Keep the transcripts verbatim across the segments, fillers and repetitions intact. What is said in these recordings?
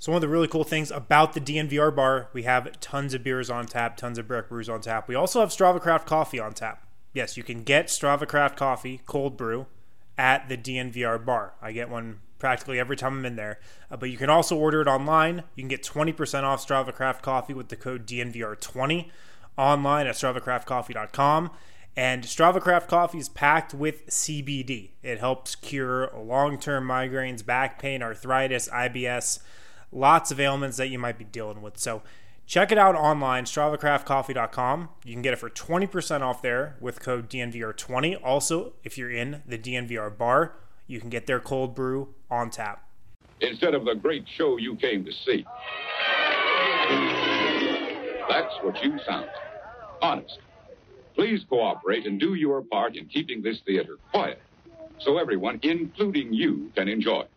So one of the really cool things about the D N V R bar, we have tons of beers on tap, tons of Breck brews on tap. We also have Strava Craft coffee on tap. Yes, you can get Strava Craft coffee, cold brew, at the D N V R bar. I get one practically every time I'm in there. Uh, but you can also order it online. You can get twenty percent off Strava Craft coffee with the code D N V R twenty online at strava craft coffee dot com. And Strava Craft coffee is packed with C B D. It helps cure long-term migraines, back pain, arthritis, I B S, lots of ailments that you might be dealing with. So check it out online, strava craft coffee dot com. You can get it for twenty percent off there with code D N V R twenty. Also, if you're in the D N V R bar, you can get their cold brew on tap. Instead of the great show you came to see. That's what you sound like. Honest. Please cooperate and do your part in keeping this theater quiet so everyone, including you, can enjoy it.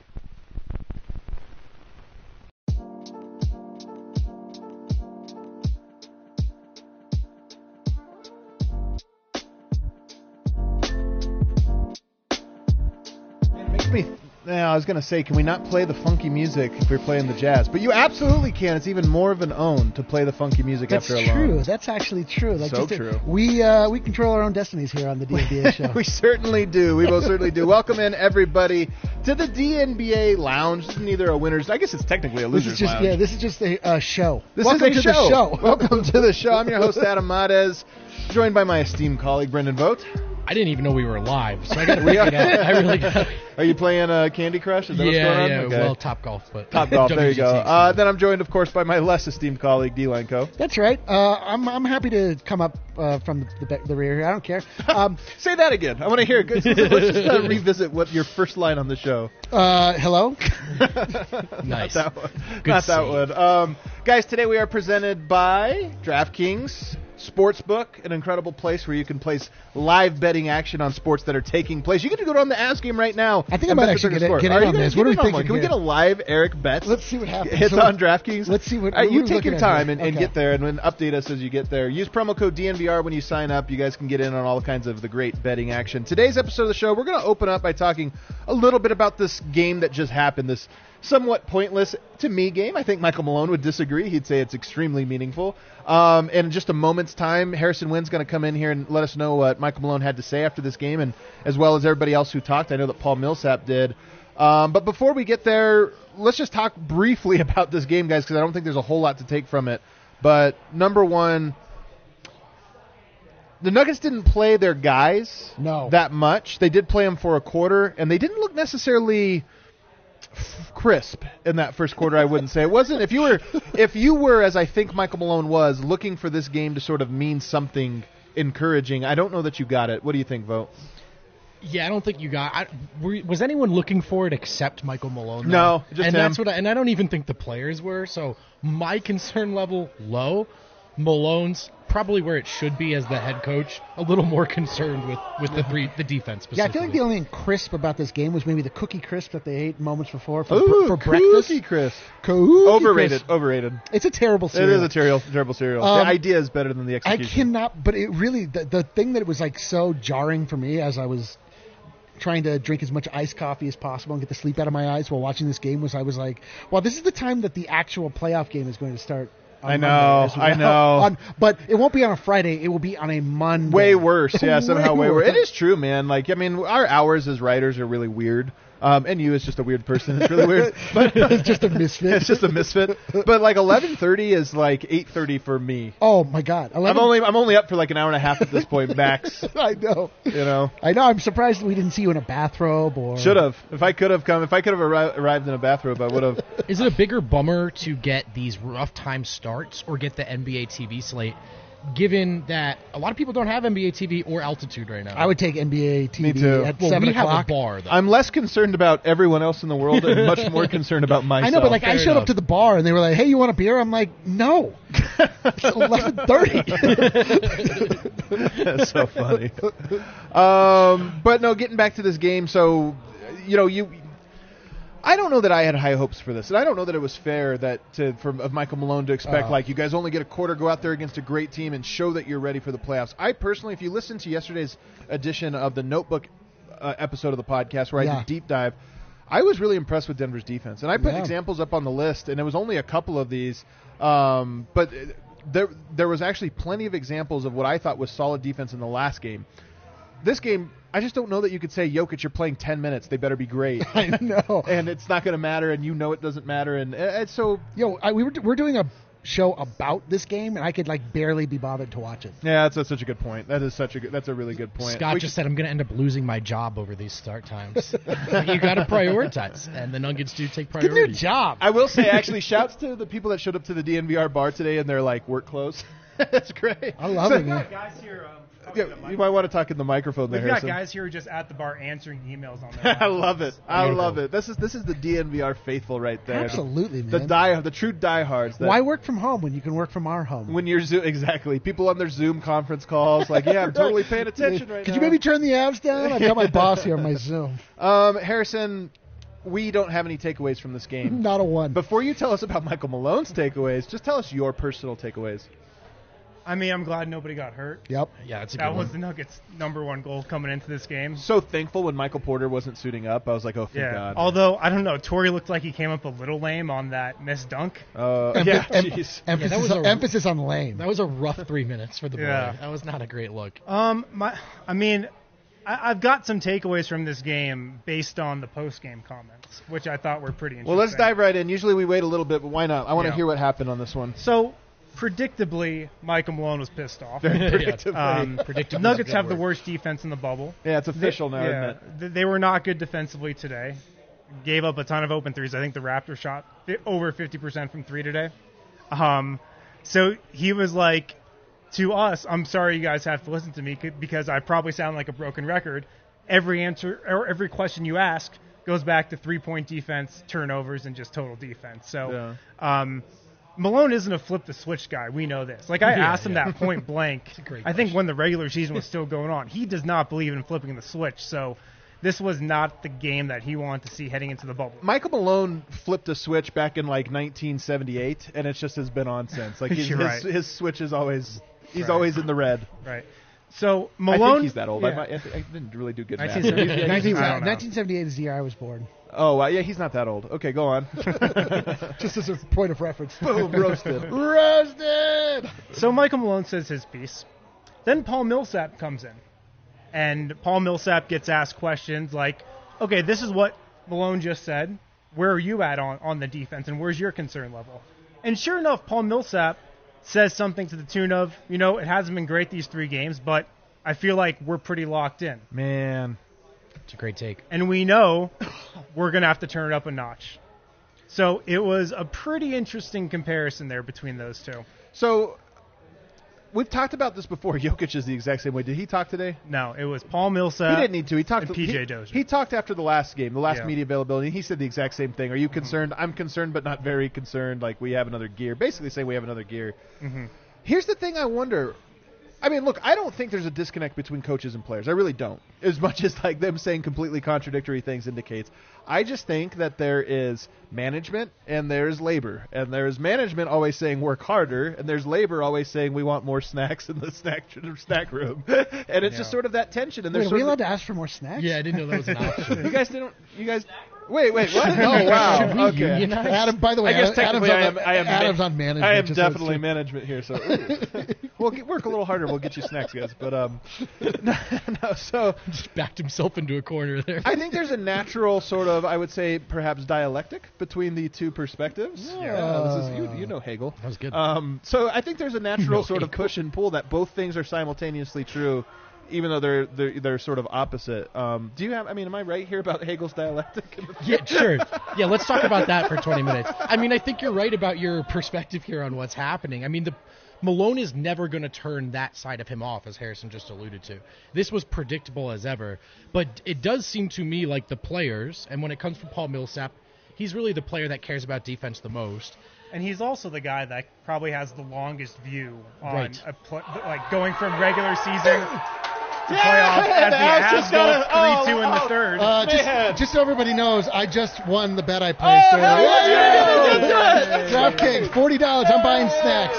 It makes me... Now, I was going to say, can we not play the funky music if we're playing the jazz? But you absolutely can. It's even more of an own to play the funky music That's after a true. long... That's actually true. Like So just a- true. we uh, we control our own destinies here on the D N B A show. We certainly do. We most certainly do. Welcome in, everybody, to the D N B A Lounge. This is neither a winner's... I guess it's technically a This loser's is just lounge. yeah. This is just a uh, show. This Welcome is a to show. the show. Welcome to the show. I'm your host, Adam Mades, joined by my esteemed colleague, Brendan Vogt. I didn't even know we were live, so I got to figure it out. I really got. Are you playing uh, Candy Crush? Is that what's going Yeah, on? yeah. Okay. Well, Top Golf, but Top Golf. There you go. W G T. Uh, then I'm joined, of course, by my less esteemed colleague, D. Lanco. That's right. Uh, I'm I'm happy to come up uh, from the, the the rear here. I don't care. Um, Say that again. I want to hear it. Let's just uh, revisit what your first line on the show. uh, hello. Nice. Not that one. Good Not that save. one. Um, guys, today we are presented by DraftKings Sportsbook, an incredible place where you can place live betting action on sports that are taking place. You can go on the Ask Game right now. I think I and might bet the actually bigger get, score. it, get Are in you on gonna this. get What are we in on thinking one? Can we here? get a live Eric Betts? Let's see what happens. Hits So- on DraftKings. Let's see what. All right, what you are we take looking your at time here? and, and Okay. get there, and then update us as you get there. Use promo code D N V R when you sign up. You guys can get in on all kinds of the great betting action. Today's episode of the show, we're going to open up by talking a little bit about this game that just happened, this somewhat pointless, to me, game. I think Michael Malone would disagree. He'd say it's extremely meaningful. Um, and in just a moment's time, Harrison Wynn's going to come in here and let us know what Michael Malone had to say after this game, and as well as everybody else who talked. I know that Paul Millsap did. Um, but before we get there, let's just talk briefly about this game, guys, because I don't think there's a whole lot to take from it. But number one, the Nuggets didn't play their guys No. that much. They did play them for a quarter, and they didn't look necessarily f- crisp in that first quarter. I wouldn't say it wasn't. If you were, if you were, as I think Michael Malone was, looking for this game to sort of mean something encouraging, I don't know that you got it. What do you think, Vogt? Yeah, I don't think you got. I, were, was anyone looking for it except Michael Malone? though? No, just and him. that's what. I, and I don't even think the players were. So my concern level low. Malone's probably where it should be as the head coach. A little more concerned with with the three, the defense. Yeah, I feel like the specifically. only thing crisp about this game was maybe the cookie crisp that they ate moments before for, Ooh, for breakfast. Cookie Crisp. Cookie Overrated. Crisp. Overrated. It's a terrible It cereal. is a terrible, terrible cereal. Um, the idea is better than the I execution. cannot, but it really, the, the thing that was like so jarring for me as I was trying to drink as much iced coffee as possible and get the sleep out of my eyes while watching this game was I was like, well, this is the time that the actual playoff game is going to start. on I know, Monday as I well. know. On, but it won't be on a Friday. It will be on a Monday. Way worse, yeah, somehow way Way worse. worse. It is true, man. Like, I mean, our hours as writers are really weird. Um, and you is just a weird person. It's really weird. But It's just a misfit. it's just a misfit. But like eleven thirty is like eight thirty for me. Oh my God! I'm only I'm only up for like an hour and a half at this point, max. I know. You know, I know. I'm surprised we didn't see you in a bathrobe or. should have. If I could have come, if I could have arri- arrived in a bathrobe, I would have. Is it a bigger bummer to get these rough time starts or get the N B A T V slate, given that a lot of people don't have N B A T V or altitude right now? I would take N B A T V Me too. at well, seven we o'clock. have a bar, though. I'm less concerned about everyone else in the world and much more concerned about myself. I know, but like I Fair showed enough. up to the bar and they were like, "Hey, you want a beer?" I'm like, "No, it's eleven thirty." That's so funny. Um, but no, getting back to this game. So, you know, you. I don't know that I had high hopes for this, and I don't know that it was fair that to from of Michael Malone to expect Uh. like you guys only get a quarter, go out there against a great team, and show that you're ready for the playoffs. I personally, if you listen to yesterday's edition of the Notebook uh, episode of the podcast where I Yeah. did deep dive, I was really impressed with Denver's defense, and I put Yeah. examples up on the list, and it was only a couple of these, um, but there there was actually plenty of examples of what I thought was solid defense in the last game. This game, I just don't know that you could say, Jokic, you're playing ten minutes. They better be great. I know. And it's not going to matter, and you know it doesn't matter. And, and so, Yo, I, we were we're doing a show about this game, and I could like barely be bothered to watch it. yeah, that's, that's such a good point. That is such a good, that's a really good point. Scott We just should- said I'm going to end up losing my job over these start times. You got to prioritize, and the Nuggets do take Get a new priority. job. I will say, actually, shouts to the people that showed up to the D N V R bar today in their like work clothes. That's great. I love So- it, man. Guys here, um, Yeah, you might want to talk in the microphone there, We've got Harrison. guys here just at the bar answering emails on their I love it. I Beautiful. love it. This is this is the D N V R faithful right there. Absolutely, The man. die, the true diehards. That Why work from home when you can work from our home? when you're Zoom, exactly people on their Zoom conference calls, like, yeah, I'm totally paying attention right Could now. you maybe turn the abs down? I've got my boss here on my Zoom. Um, Harrison, we don't have any takeaways from this game. Not a one. Before you tell us about Michael Malone's takeaways, just tell us your personal takeaways. I mean, I'm glad nobody got hurt. Yep. Yeah, it's a good That was one. the Nuggets' number one goal coming into this game. So thankful when Michael Porter wasn't suiting up. I was like, oh, thank Yeah. God. Although I don't know, Torrey looked like he came up a little lame on that missed dunk. uh, Em- yeah, em- jeez. emphasis, was a- emphasis on lame. That was a rough three minutes for the boy. Yeah. That was not a great look. Um, my, I mean, I, I've got some takeaways from this game based on the post-game comments, which I thought were pretty interesting. Well, let's dive right in. Usually we wait a little bit, but why not? I want to Yeah. hear what happened on this one. So, predictably, Michael Malone was pissed off. Predictably. Um, Predictably is a Nuggets good have the word. worst defense in the bubble. yeah, it's official now, yeah, isn't it? th- they were not good defensively today. Gave up a ton of open threes. I think the Raptors shot fi- over fifty percent from three today. Um, so he was like, to us, I'm sorry you guys have to listen to me c- because I probably sound like a broken record. Every answer or every question you ask goes back to three-point defense, turnovers, and just total defense. So um, Malone isn't a flip the switch guy. We know this. Like I Yeah, asked him yeah. that point blank. a great I think when the regular season was still going on, he does not believe in flipping the switch. So this was not the game that he wanted to see heading into the bubble. Michael Malone flipped a switch back in like nineteen seventy-eight, and it just has been on since. Like his, You're his, right. his switch is always he's Right. always in the red. Right. So I Malone. think he's that old. I, yeah. might, I, th- I didn't really do good math. nineteen seventy. nineteen, I don't know. nineteen seventy-eight is the year I was born. Oh, wow, yeah, he's not that old. Okay, go on. Just as a point of reference. Boom, roasted. Roasted! So Michael Malone says his piece. Then Paul Millsap comes in. And Paul Millsap gets asked questions like, okay, this is what Malone just said. Where are you at on, on the defense, and where's your concern level? And sure enough, Paul Millsap says something to the tune of, you know, it hasn't been great these three games, but I feel like we're pretty locked in. Man. It's a great take. And we know we're going to have to turn it up a notch. So it was a pretty interesting comparison there between those two. So, we've talked about this before. Jokic is the exact same way. Did he talk today? No, it was Paul Millsap. He didn't need to. He talked and to P J he, Dozier. He talked after the last game, the last Yeah. media availability. He said the exact same thing. Are you concerned? I'm concerned, but not very concerned. Like, we have another gear. Basically saying we have another gear. Mm-hmm. Here's the thing I wonder. I mean, look, I don't think there's a disconnect between coaches and players. I really don't. As much as like them saying completely contradictory things indicates. I just think that there is management and there's labor. And there's management always saying work harder, and there's labor always saying we want more snacks in the snack snack room. And it's just Yeah. sort of that tension. And Wait, there's are sort we of allowed to ask for more snacks? Yeah, I didn't know that was an option. you guys didn't. You guys. Wait, wait. What? Oh, wow. Should we Okay. unionize? Adam, by the way, I guess Adam- technically Adam's I am. on, I am. Adam's ma- on management. I am just so it's definitely true. management here. So ooh. we'll get, work a little harder. We'll get you snacks, guys. But um, no, no. So Just backed himself into a corner there. I think there's a natural sort of, I would say, perhaps dialectic between the two perspectives. Yeah. this is you. You know Hegel. That was good. Um, so I think there's a natural know sort of Hegel. push and pull that both things are simultaneously true, even though they're they're, they're sort of opposite. Um, do you have? I mean, am I right here about Hegel's dialectic? Yeah, sure. Yeah, let's talk about that for twenty minutes. I mean, I think you're right about your perspective here on what's happening. I mean, the Malone is never going to turn that side of him off, as Harrison just alluded to. This was predictable as ever, but it does seem to me like the players, and when it comes from Paul Millsap, he's really the player that cares about defense the most. And he's also the guy that probably has the longest view on Right. a pl- like going from regular season to Yeah, playoffs as the I was Avs just go gonna- oh, three two in the oh. third. Uh, Man. just, just so everybody knows, I just won the bet I placed. Oh, hell yeah, Yay! DraftKings, forty dollars. I'm buying snacks.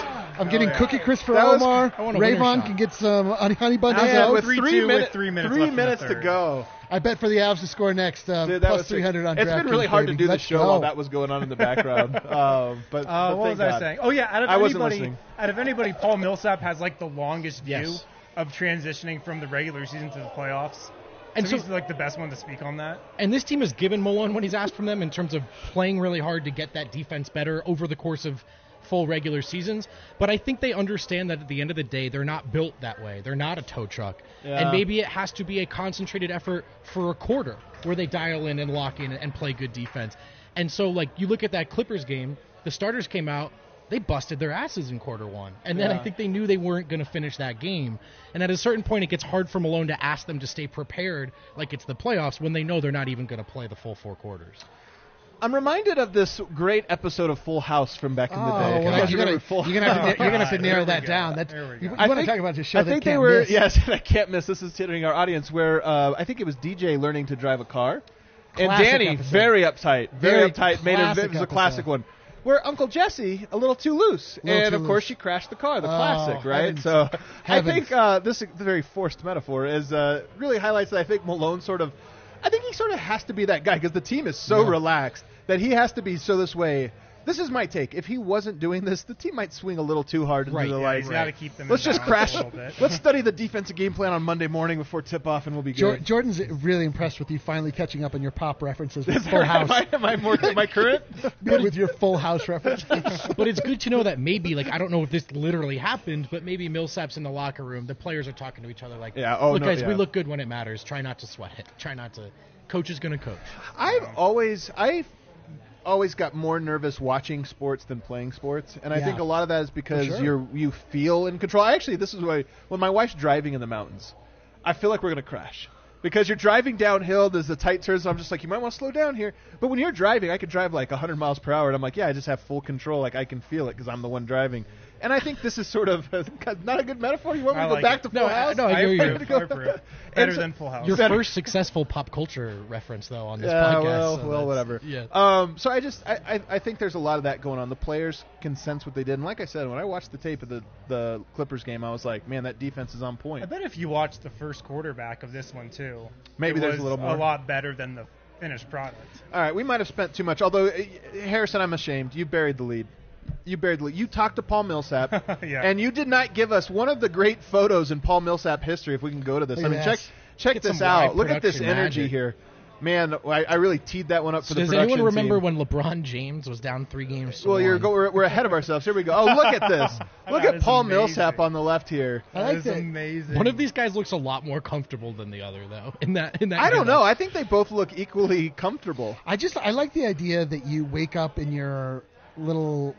I'm getting yeah. Cookie Crisp for That was- Omar. I want a winner Rayvon shot. can get some honey, honey buns. How's Man, that with three three, two with minutes, three minutes three left in the minutes to third. go. I bet for the Avs to score next. Um, Dude, that plus was three hundred on It's been really DraftKings, hard to baby. do the Let's show go. while that was going on in the background. um, but, Uh, but what thank was I God. saying? Oh yeah, out of I wasn't anybody, listening. out of anybody, Paul Millsap has like the longest view Yes. of transitioning from the regular season to the playoffs. And so, so- he's like the best one to speak on that. And this team has given Malone what he's asked from them in terms of playing really hard to get that defense better over the course of full regular seasons. But I think they understand that at the end of the day, they're not built that way. They're not a tow truck. Yeah. And maybe it has to be a concentrated effort for a quarter where they dial in and lock in and play good defense. And so, like, you look at that Clippers game, the starters came out, they busted their asses in quarter one. And then Yeah. I think they knew they weren't going to finish that game. And at a certain point, it gets hard for Malone to ask them to stay prepared like it's the playoffs when they know they're not even going to play the full four quarters. I'm reminded of this great episode of Full House from back in the Oh, day. well, You guys you're gonna, remember Full you're gonna have to, House? you're gonna have to God, narrow here we that go. down. That's Here we you, go. you I want to think- talk about the show I that think can't they were miss. yes, I can't miss. This is hitting our audience where uh, I think it was D J learning to drive a car, and Classic Danny episode. very uptight, very, Very uptight. Made it, classic it was a episode. classic one. Where Uncle Jesse a little too loose, Little and too of course loose. she crashed the car. The Oh, classic, right? heavens. So I Heavens. think uh, this very forced metaphor is uh, really highlights that I think Malone sort of, I think he sort of has to be that guy because the team is so Yeah. relaxed that he has to be so this way. This is my take. If he wasn't doing this, the team might swing a little too hard into Right, the yeah, light. He's got to keep them. Let's in just balance crash. a little bit. Let's study the defensive game plan on Monday morning before tip off, and we'll be Jor- good. Jordan's really impressed with you finally catching up on your pop references Is with that Full right? House. Am I, am I more? Am I current? with your Full House references. But it's good to know that maybe, like, I don't know if this literally happened, but maybe Millsap's in the locker room. The players are talking to each other like, Yeah, oh, look, no, guys, yeah. we look good when it matters. Try not to sweat it. Try not to. Coach is going to coach. I've always I've always got more nervous watching sports than playing sports, and I Yeah. think a lot of that is because For sure. you're you feel in control. Actually, this is why when my wife's driving in the mountains, I feel like we're gonna crash. Because you're driving downhill, there's the tight turns. So I'm just like, you might want to slow down here. But when you're driving, I could drive like one hundred miles per hour, and I'm like, yeah, I just have full control. Like I can feel it because I'm the one driving. And I think this is sort of not a good metaphor. You want me I to go like back it. to Full No, I- House? no, I I hear you. approve. I approve. Better And so- than Full House. Your Better- first successful pop culture reference, though, on this Yeah, podcast. well, so well, that's- whatever. Yeah. Um, so I just, I, I, I think there's a lot of that going on. The players can sense what they did, and like I said, when I watched the tape of the the Clippers game, I was like, man, that defense is on I point. bet if you watch the first quarterback of this one too, Maybe it there's a was little more. a lot better than the finished product. All right, we might have spent too much. Although uh, Harrison, I'm ashamed. You buried the lead. You buried the lead. You talked to Paul Millsap, Yeah. and you did not give us one of the great photos in Paul Millsap history. If we can go to this, Look I at mean, check this. check Get this some out. live Look at this production energy magic. here. Man, I, I really teed that one up for So the does production anyone remember team. when LeBron James was down three games to Well, you're one? go, we're, we're ahead of ourselves. Here we go. Oh, look at this. Look That at is Paul amazing. Millsap on the left here. I like That is that. amazing. One of these guys looks a lot more comfortable than the other, though. In that, in that. I don't getup. know. I think they both look equally comfortable. I just I like the idea that you wake up in your little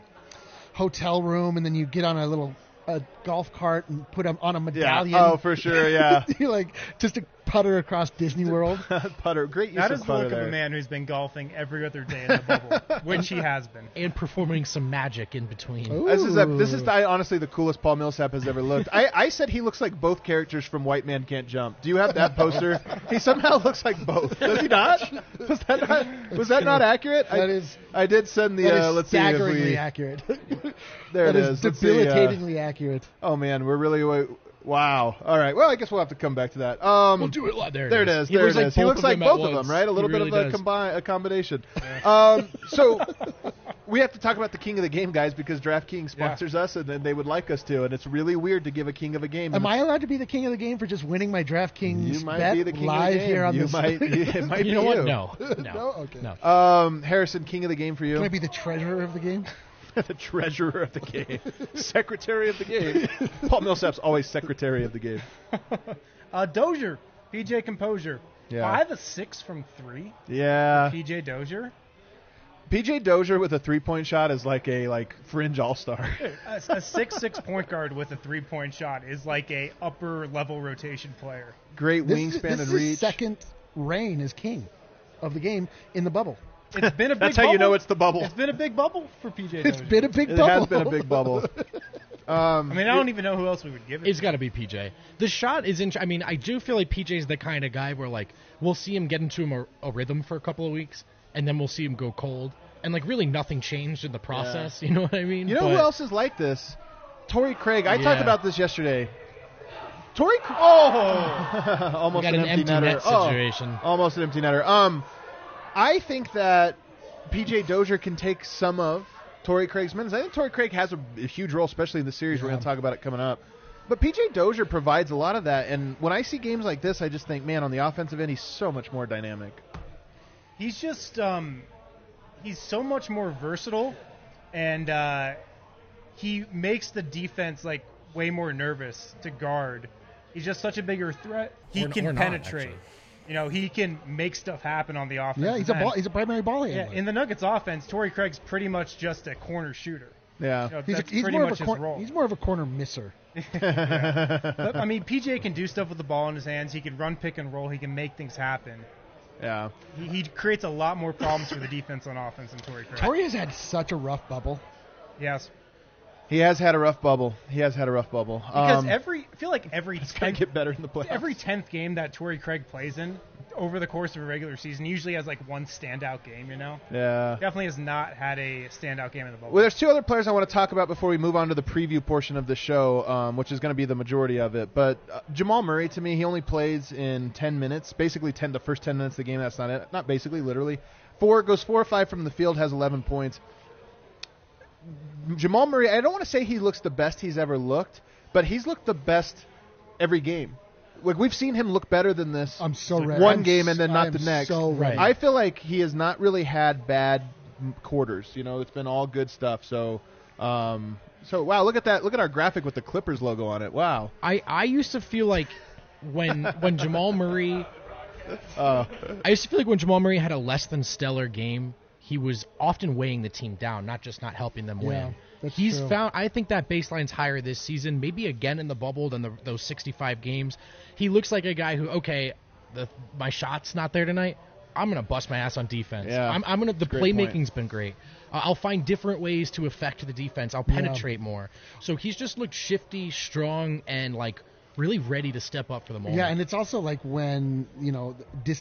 hotel room and then you get on a little a golf cart and put 'em on a medallion. Oh, for sure. Yeah. you like just to putter across Disney World. Putter. Great use That of is the putter look there. of a man who's been golfing every other day in the bubble, which he has been. And performing some magic in between. Ooh. This is a, this is the, honestly the coolest Paul Millsap has ever looked. I, I said he looks like both characters from White Man Can't Jump. Do you have that poster? He somehow looks like both. Does he not? Was that not, was that not accurate? That I, is- I did send the. That uh, is let's see if staggeringly we. accurate. There That it is is. Let's see, uh, debilitatingly accurate. oh man, we're really. wa- Wow. All right. Well, I guess we'll have to come back to that. Um, We'll do it. li- There it There it is. is. He There looks it like is. He both looks of like them at both of once. them, right? A He little really bit of does. a, combi- a combination. Um, so we have to talk about the king of the game, guys, because DraftKings sponsors us, and then they would like us to, and it's really weird to give a king of a game. Am I allowed to be the king of the game for just winning my DraftKings You might bet be the king live of the game. here on you this? might. It might You be know what? you. No. No. No? Okay. No. Um, Harrison, king of the game for you. Can I be the treasurer of the game? The treasurer of the game, secretary of the game. Paul Millsap's always secretary of the game. Uh, Dozier, P J Composure. Yeah. Five of six from three. Yeah, P J Dozier. P J Dozier with a three-point shot is like a like fringe all-star. A, a six six point guard with a three point shot is like a upper level rotation player. Great This wingspan is, this and is reach. his second reign as king of the game in the bubble. It's been a big That's how bubble. you know it's the bubble. It's been a big bubble for P J It's Dozier. been a big It bubble. has been a big bubble. Um, I mean, I don't even know who else we would give it. It's to. got to be P J. The shot is in. I mean, I do feel like P J's the kind of guy where like we'll see him get into a, a rhythm for a couple of weeks, and then we'll see him go cold, and like really nothing changed in the process. You know what I mean? You know But who else is like this? Torrey Craig. I Yeah. talked about this yesterday. Torrey Craig. Oh! Almost got an, an empty, empty netter. net Oh, situation. almost an empty netter. Um, I think that P J Dozier can take some of Torrey Craig's minutes. I think Torrey Craig has a, a huge role, especially in the series. Yeah. We're going to talk about it coming up. But P J Dozier provides a lot of that. And when I see games like this, I just think, man, on the offensive end, he's so much more dynamic. He's just um, he's so much more versatile, and uh, he makes the defense like way more nervous to guard. He's just such a bigger threat. He Or- can or not, penetrate. actually. You know, he can make stuff happen on the offense. Yeah, he's a ball, he's a primary ball Yeah, handler. in the Nuggets offense, Torrey Craig's pretty much just a corner shooter. Yeah. You know, he's, a, that's he's pretty more much of a his cor- role. he's more of a corner misser. But, I mean, P J can do stuff with the ball in his hands. He can run pick and roll. He can make things happen. Yeah. He, he creates a lot more problems for the defense on offense than Torrey Craig. Torrey has had such a rough bubble. Yes. He has had a rough bubble. He has had a rough bubble. Because um, every, I feel like every it's going tenth, to get better in the playoffs. every tenth game that Torrey Craig plays in over the course of a regular season usually has like one standout game, you know? Yeah. Definitely has not had a standout game in the bubble. Well, there's two other players I want to talk about before we move on to the preview portion of the show, um, which is going to be the majority of it. But uh, Jamal Murray, to me, he only plays in ten minutes, basically ten the first ten minutes of the game. That's not it. Not basically, literally. Four goes four or five from the field, has eleven points. Jamal Murray, I don't want to say he looks the best he's ever looked, but he's looked the best every game. Like, we've seen him look better than this. I'm so ready. One I'm game and then s- not I'm the next. so ready. I feel like he has not really had bad m- quarters. You know, it's been all good stuff. So, um, so wow, look at that! Look at our graphic with the Clippers logo on it. Wow. I, I used to feel like when when Jamal Murray Uh, I used to feel like when Jamal Murray had a less than stellar game, he was often weighing the team down, not just not helping them Yeah, win. that's He's true. found. I think that baseline's higher this season, maybe again in the bubble than the, those sixty-five games. He looks like a guy who, okay, the, my shot's not there tonight. I'm gonna bust my ass on defense. Yeah, I'm, I'm gonna. The that's a great playmaking's been great. Uh, I'll find different ways to affect the defense. I'll Yeah. penetrate more. So he's just looked shifty, strong, and like really ready to step up for the moment. Yeah, and it's also like when, you know, dis-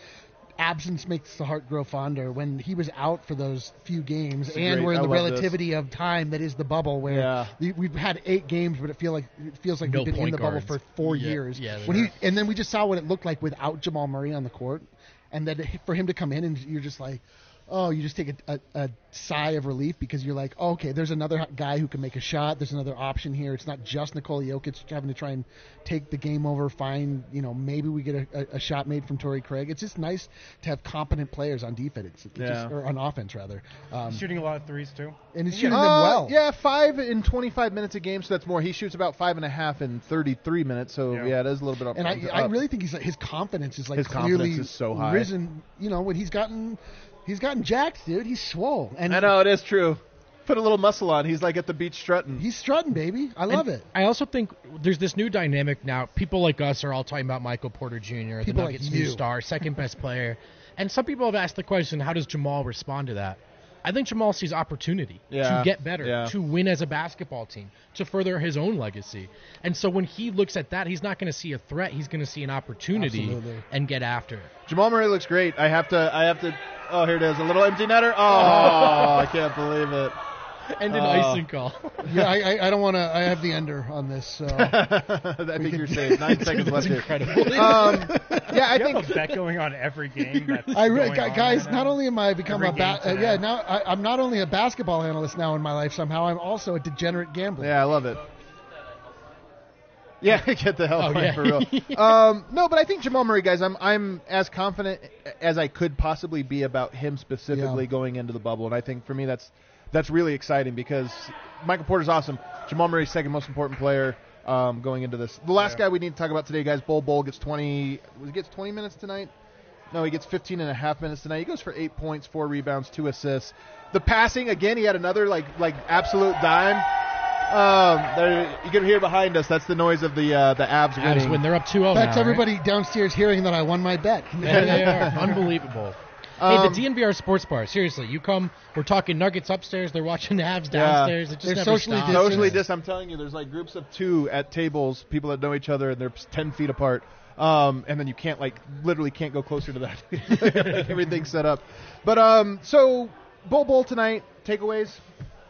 absence makes the heart grow fonder. When he was out for those few games, It's and great. we're in I the love relativity of time that is the bubble, where Yeah. the, we've had eight games, but it feel like it feels like No we've been in point the bubble guards. for four Yeah, years. yeah, when he yeah. and then we just saw what it looked like without Jamal Murray on the court, and then for him to come in and you're just like, oh, you just take a, a, a sigh of relief because you're like, oh, okay, there's another guy who can make a shot. There's another option here. It's not just Nikola Jokic having to try and take the game over, find, you know, maybe we get a, a, a shot made from Torrey Craig. It's just nice to have competent players on defense, it's, it's Yeah. just, or on offense, rather. Um, Shooting a lot of threes, too. and he's shooting them uh, well. Yeah, five in twenty-five minutes a game, so that's more. He shoots about five and a half in thirty-three minutes, so yeah, Yeah. it is a little bit up. And I, up. I really think he's his confidence is like His clearly confidence is so high. risen. You know, when he's gotten he's gotten jacked, dude. He's swole, and I know, it is true. Put a little muscle on. He's like at the beach strutting. he's strutting, baby. I love And it. I also think there's this new dynamic now. People like us are all talking about Michael Porter Junior, the People like Nuggets' you. new star, second best player. And some people have asked the question, how does Jamal respond to that? I think Jamal sees opportunity Yeah, to get better, yeah. to win as a basketball team, to further his own legacy. And so when he looks at that, he's not going to see a threat. He's going to see an opportunity Absolutely. and get after it. Jamal Murray looks great. I have to. I have to. Oh, here it is. A little empty netter. Oh, I can't believe it. And an Oh. icing call. Yeah, I, I, I don't want to. I have the under on this. So I think you're safe. Nine seconds left here. Incredible. Um, yeah, I You think have a bet going on every game. That's I re- going on guys, right not now. only am I become Every a ba- game uh, today. yeah now I, I'm not only a basketball analyst now in my life somehow. I'm also a degenerate gambler. Yeah, I love it. Yeah, get the hell Oh, away yeah. for real. um, no, but I think Jamal Murray, guys, I'm I'm as confident as I could possibly be about him specifically Yeah. going into the bubble, and I think for me that's that's really exciting because Michael Porter's awesome. Jamal Murray's second most important player um, going into this. The last guy we need to talk about today, guys, Bol Bol gets twenty. He gets twenty minutes tonight. No, he gets fifteen and a half minutes tonight. He goes for eight points, four rebounds, two assists. The passing again, he had another like like absolute dime. Um, there, you can hear behind us. That's the noise of the uh, the Avs Avs winning. win. They're up two oh That's now, everybody downstairs hearing that I won my bet. There they are. Unbelievable. hey, Um, the D N V R Sports Bar. Seriously, you come. We're talking Nuggets upstairs. They're watching the Avs Yeah. downstairs. It just They're never socially stops. distanced. Socially dis. I'm telling you, there's like groups of two at tables, people that know each other, and they're ten feet apart. Um, and then you can't like literally can't go closer to that. Like, everything's set up. But um, so Bol Bol tonight takeaways.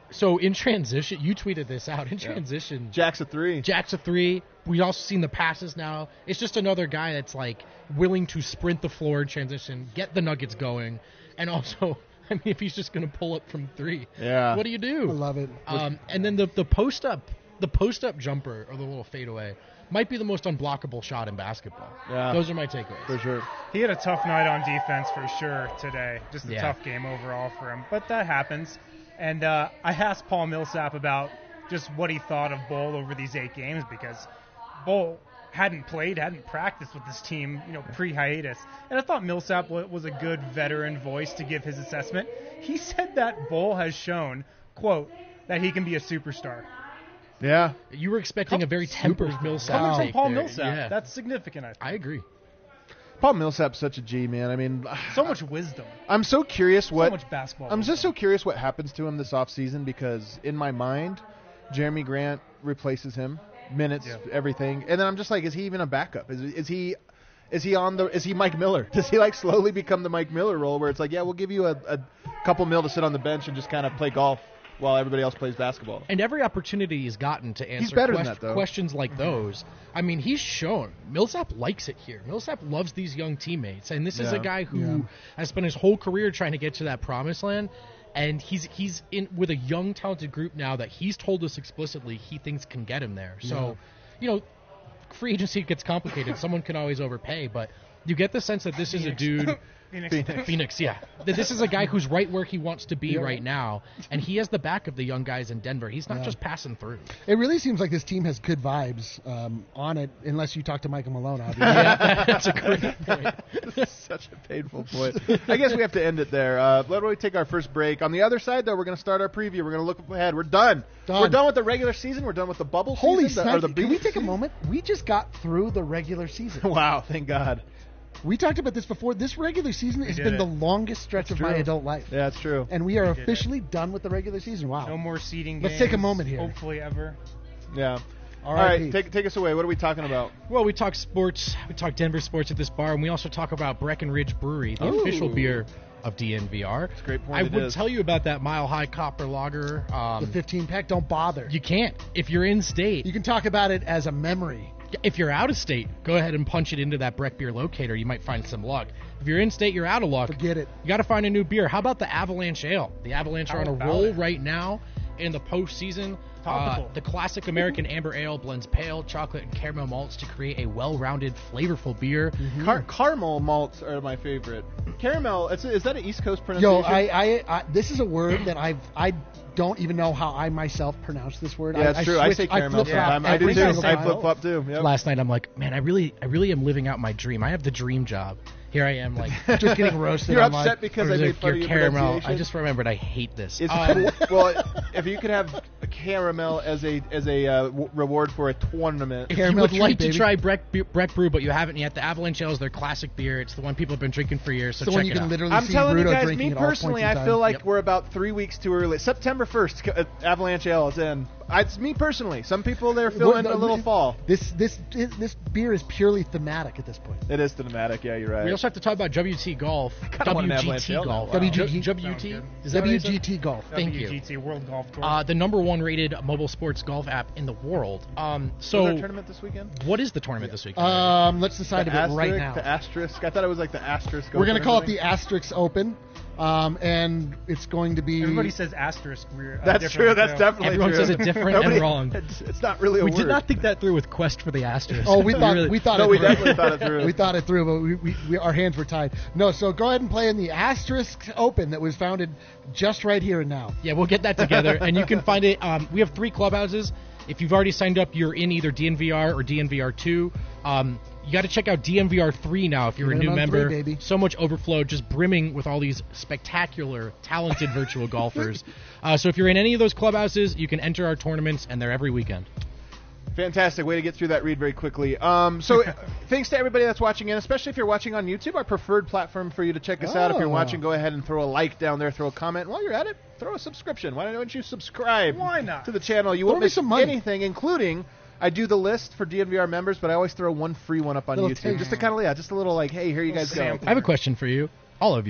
So in transition, you tweeted this out. In transition, Jack's a three. Jack's a three. We've also seen the passes now. It's just another guy that's like willing to sprint the floor in transition, get the Nuggets going, and also, I mean, if he's just going to pull up from three, Yeah. what do you do? I love it. Um, and then the the post up, the post up jumper or the little fadeaway might be the most unblockable shot in basketball. Yeah. Those are my takeaways. For sure. He had a tough night on defense for sure today. Just a Yeah. tough game overall for him. But that happens. And uh, I asked Paul Millsap about just what he thought of Bull over these eight games because Bull hadn't played, hadn't practiced with this team, you know, pre-hiatus. And I thought Millsap wa- was a good veteran voice to give his assessment. He said that Bull has shown, quote, that he can be a superstar. Yeah. You were expecting a very tempered Millsap Coming from take Paul there. Millsap, Yeah. that's significant, I think. I agree. Paul Millsap's such a G, man. I mean, So much wisdom. I'm so curious what so much basketball I'm wisdom. just so curious what happens to him this offseason because in my mind, Jeremy Grant replaces him, minutes, Yeah. everything, and then I'm just like, is he even a backup? Is is he is he on the is he Mike Miller? Does he like slowly become the Mike Miller role where it's like, yeah, we'll give you a, a couple mil to sit on the bench and just kind of play golf while everybody else plays basketball? And every opportunity he's gotten to answer better than quest- that, though. questions like those, I mean, he's shown Millsap likes it here. Millsap loves these young teammates, and this is Yeah. a guy who Yeah. has spent his whole career trying to get to that promised land. And he's he's in with a young, talented group now that he's told us explicitly he thinks can get him there. So, you know, free agency gets complicated. Someone can always overpay, but you get the sense that this is a dude. Phoenix. Phoenix, yeah. That this is a guy who's right where he wants to be Yeah. right now, and he has the back of the young guys in Denver. He's not Yeah. just passing through. It really seems like this team has good vibes um, on it, unless you talk to Michael Malone, obviously. Yeah, that's a great point. Such a painful point. I guess we have to end it there. Uh, let me take our first break. On the other side, though, we're going to start our preview. We're going to look ahead. We're done. Done. We're done with the regular season. We're done with the bubble Holy season. the- or snipe. the Can we beach take a season. moment? We just got through the regular season. Wow, thank God. We talked about this before. This regular season has did been it. the longest stretch of my true. adult life. Yeah, that's true. And we are did it. officially done with the regular season. Wow. No more seeding Let's games. take a moment here. Hopefully ever. Yeah. All R I P. right, take take us away. What are we talking about? Well, we talk sports. We talk Denver sports at this bar, and we also talk about Breckenridge Brewery, the Ooh. official beer of D N V R. That's a great point. I it would is. tell you about that Mile High Copper Lager. The Um, fifteen pack, don't bother. you can't if you're in state. You can talk about it as a memory. If you're out of state, go ahead and punch it into that Breck Beer locator. You might find some luck. If you're in state, you're out of luck. Forget it. You got to find a new beer. How about the Avalanche Ale? The Avalanche How are on a about roll it? right now in the postseason. Topical. Uh, the classic American Amber Ale blends pale, chocolate, and caramel malts to create a well-rounded, flavorful beer. Car- caramel malts are my favorite. Caramel, is, is that an East Coast Yo, pronunciation? I, I, I, this is a word that I've, I don't even know how I myself pronounce this word. yeah, that's I, true. I switch- say caramel flip-flop sometimes. I do every too. single I time. flip flop too. Yep. Last night, I'm like, man, I really, I really am living out my dream. I have the dream job. Here I am, like, Just getting roasted. You're online. upset because I Or made your fun of your caramel. pronunciation? I just remembered I hate this. It's Um, well, if you could have a caramel as a as a uh, w- reward for a tournament. If you Caramel would Delight, like to baby. try Breck, Be- Breck Brew, but you haven't yet, the Avalanche Ale is their classic beer. It's the one people have been drinking for years, so It's the check one you it can out. literally I'm see telling you Rudo guys, drinking me at all points personally, in I time. feel like Yep. we're about three weeks too early. September first, uh, Avalanche Ale is in. I, it's me personally. Some people they're feeling Well, a little it- fall. This this this beer is purely thematic at this point. It is cinematic. Yeah, you're right. We also have to talk about W T Golf. kinda want an Avalanche W G T Ale now. Golf. Wow. W G T W T? Is that what I W said? G T Golf. Thank you. W G T World Golf Tour. Uh, the number one rated mobile sports golf app in the world. Um, Was so, there a tournament this weekend? what is the tournament this week? Um, let's decide The a bit right asterisk, now. The asterisk. I thought it was like the asterisk. We're gonna open call or it the something. Asterisk Open, um, and it's going to be. Everybody says asterisk. We're, uh, That's different, true. That's too. definitely Everyone true. says it different and Nobody- wrong. It's, it's not really a we word. did not think that through with Quest for the Asterisk. Oh, we thought really- we thought No, it we through. definitely thought it through. We thought it through, but we, we, we our hands were tied. No, so go ahead and play in the Asterisk Open that was founded just right here and now. Yeah, we'll get that together, and you can find it. Um, we have three clubhouses. If you've already signed up, you're in either D N V R or D N V R two. Um, you got to check out D N V R three now if you're Get a it new on member. three, baby. So much overflow, just brimming with all these spectacular, talented virtual golfers. Uh, so if you're in any of those clubhouses, you can enter our tournaments, and they're every weekend. Fantastic way to get through that read very quickly. Um, so thanks to everybody that's watching in, especially if you're watching on YouTube, our preferred platform for you to check us out. If you're Oh. watching, go ahead and throw a like down there, throw a comment. While you're at it, throw a subscription. Why don't you subscribe Why not? to the channel? You Throw won't me miss some money. anything, including I do the list for D N V R members, but I always throw one free one up on Little YouTube. taste. Just to kind of, yeah, just a little like, hey, here you guys go. sample. I have a question for you, all of you.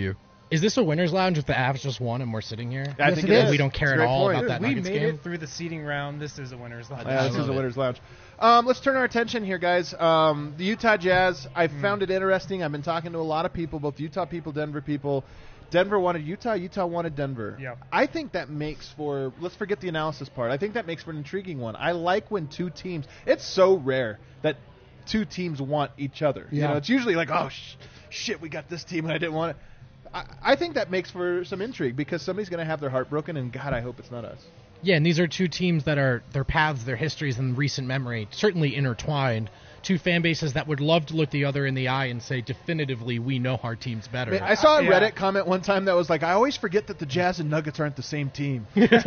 Is this a winner's lounge if the Avs just won and we're sitting here? I Yes, think it it is. is. We don't care It's at a great all point. about that we Nuggets made game. it through the seeding round. This is a winner's lounge. Yeah, I this love is a it. winner's lounge. Um, let's turn our attention here, guys. Um, the Utah Jazz. I Hmm. found it interesting. I've been talking to a lot of people, both Utah people, Denver people. Denver wanted Utah. Utah wanted Denver. Yep. I think that makes for. Let's forget the analysis part. I think that makes for an intriguing one. I like when two teams. It's so rare that two teams want each other. You Yeah. know, it's usually like, oh sh- shit, we got this team and I didn't want it. I, I think that makes for some intrigue because somebody's going to have their heart broken, and God, I hope it's not us. Yeah, and these are two teams that are their paths, their histories, and recent memory certainly intertwined. Two fan bases that would love to look the other in the eye and say definitively we know our team's better. I saw a Yeah. Reddit comment one time that was like, I always forget that the Jazz and Nuggets aren't the same team.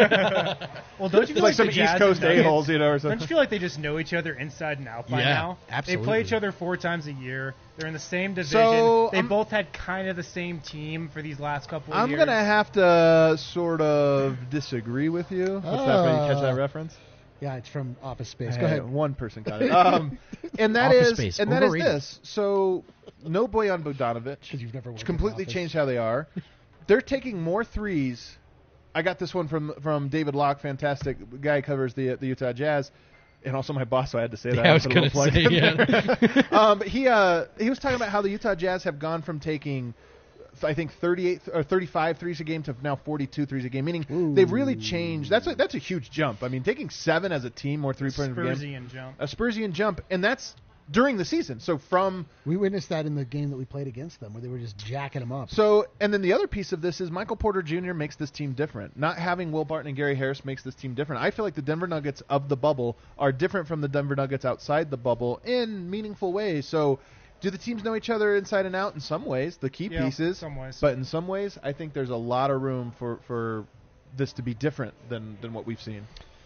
Well, don't you It's feel like some the East Jazz Coast and Nuggets- a-holes, you know, or Don't something. you feel like they just know each other inside and out by Yeah, now? They absolutely. play each other four times a year. They're in the same division. So, they I'm- both had kind of the same team for these last couple of I'm years. going to have to sort of disagree with you. What's that? Did you catch that Uh, reference? Yeah, it's from Office Space. Hey, Go ahead. One person got it. Um, and that Office is, Space, and that is overrated. this. So, no Bojan Bogdanovic. 'Cause you've never worked It's in completely an office. changed how they are. They're taking more threes. I got this one from from David Locke, fantastic guy who covers the the Utah Jazz, and also my boss. So I had to say that. Yeah, I was Put a going little to plug say, in yeah. there. um, but he uh, he was talking about how the Utah Jazz have gone from taking, I think thirty-eight or thirty-five threes a game to now forty-two threes a game. Meaning Ooh. they've really changed. That's a, that's a huge jump. I mean, taking seven as a team, more three pointers per game, Spursian jump. a Spursian jump, and that's during the season. So from We witnessed that in the game that we played against them, where they were just jacking them up. So, and then the other piece of this is Michael Porter Junior makes this team different. Not having Will Barton and Gary Harris makes this team different. I feel like the Denver Nuggets of the bubble are different from the Denver Nuggets outside the bubble in meaningful ways. So, do the teams know each other inside and out? In some ways, the key Yeah, pieces. some ways. But in some ways, I think there's a lot of room for, for this to be different than, than what we've seen.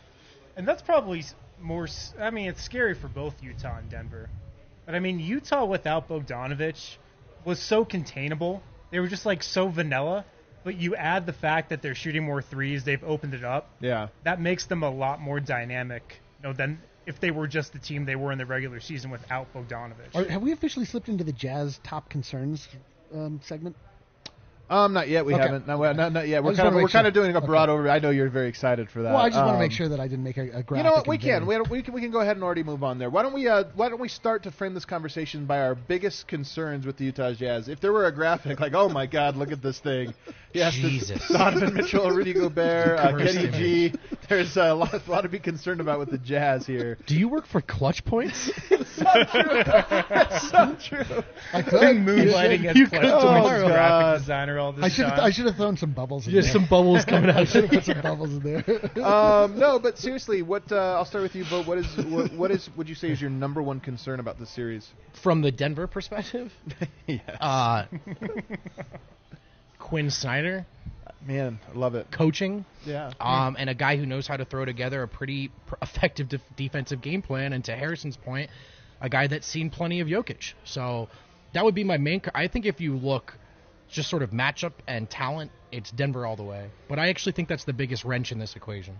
And that's probably s- more. s- I mean, it's scary for both Utah and Denver. But I mean, Utah without Bogdanovich was so containable. They were just like so vanilla. But you add the fact that they're shooting more threes, they've opened it up. Yeah. That makes them a lot more dynamic, you know, than if they were just the team they were in the regular season without Bogdanovich. Are, have we officially slipped into the Jazz top concerns um, segment? Um, not yet. We Okay. haven't. No, not, not yet. We're just kind of wanna we're make kind of sure. doing a broad overview. I know you're very excited for that. Well, I just want to make Um, sure that I didn't make a, a graphic. You know what? We and can. very- We, we can. We can go ahead and already move on there. Why don't we? Uh, why don't we start to frame this conversation by our biggest concerns with the Utah Jazz? If there were a graphic, like, oh my God, look at this thing. Yes, Jesus. Donovan Mitchell, Rudy Gobert, uh, Cursed Kenny image. G. There's a lot, a lot to be concerned about with the Jazz here. Do you work for Clutch Points? It's so true. I could. Moonlighting as You Clutch could Points tomorrow. graphic God. designer all this I should have. time. I should have thrown some bubbles in Just there. some bubbles coming I out. should have put some bubbles in there. Um, no, but seriously, what? Uh, I'll start with you, Bo. What is? What, what is? Would you say is your number one concern about this series? From the Denver perspective, Yes. uh, Quinn Snyder Man, I love it. coaching, Yeah. um, and a guy who knows how to throw together a pretty pr- effective def- defensive game plan. And to Harrison's point, a guy that's seen plenty of Jokic. So that would be my main. Co- I think if you look just sort of matchup and talent, it's Denver all the way. But I actually think that's the biggest wrench in this equation.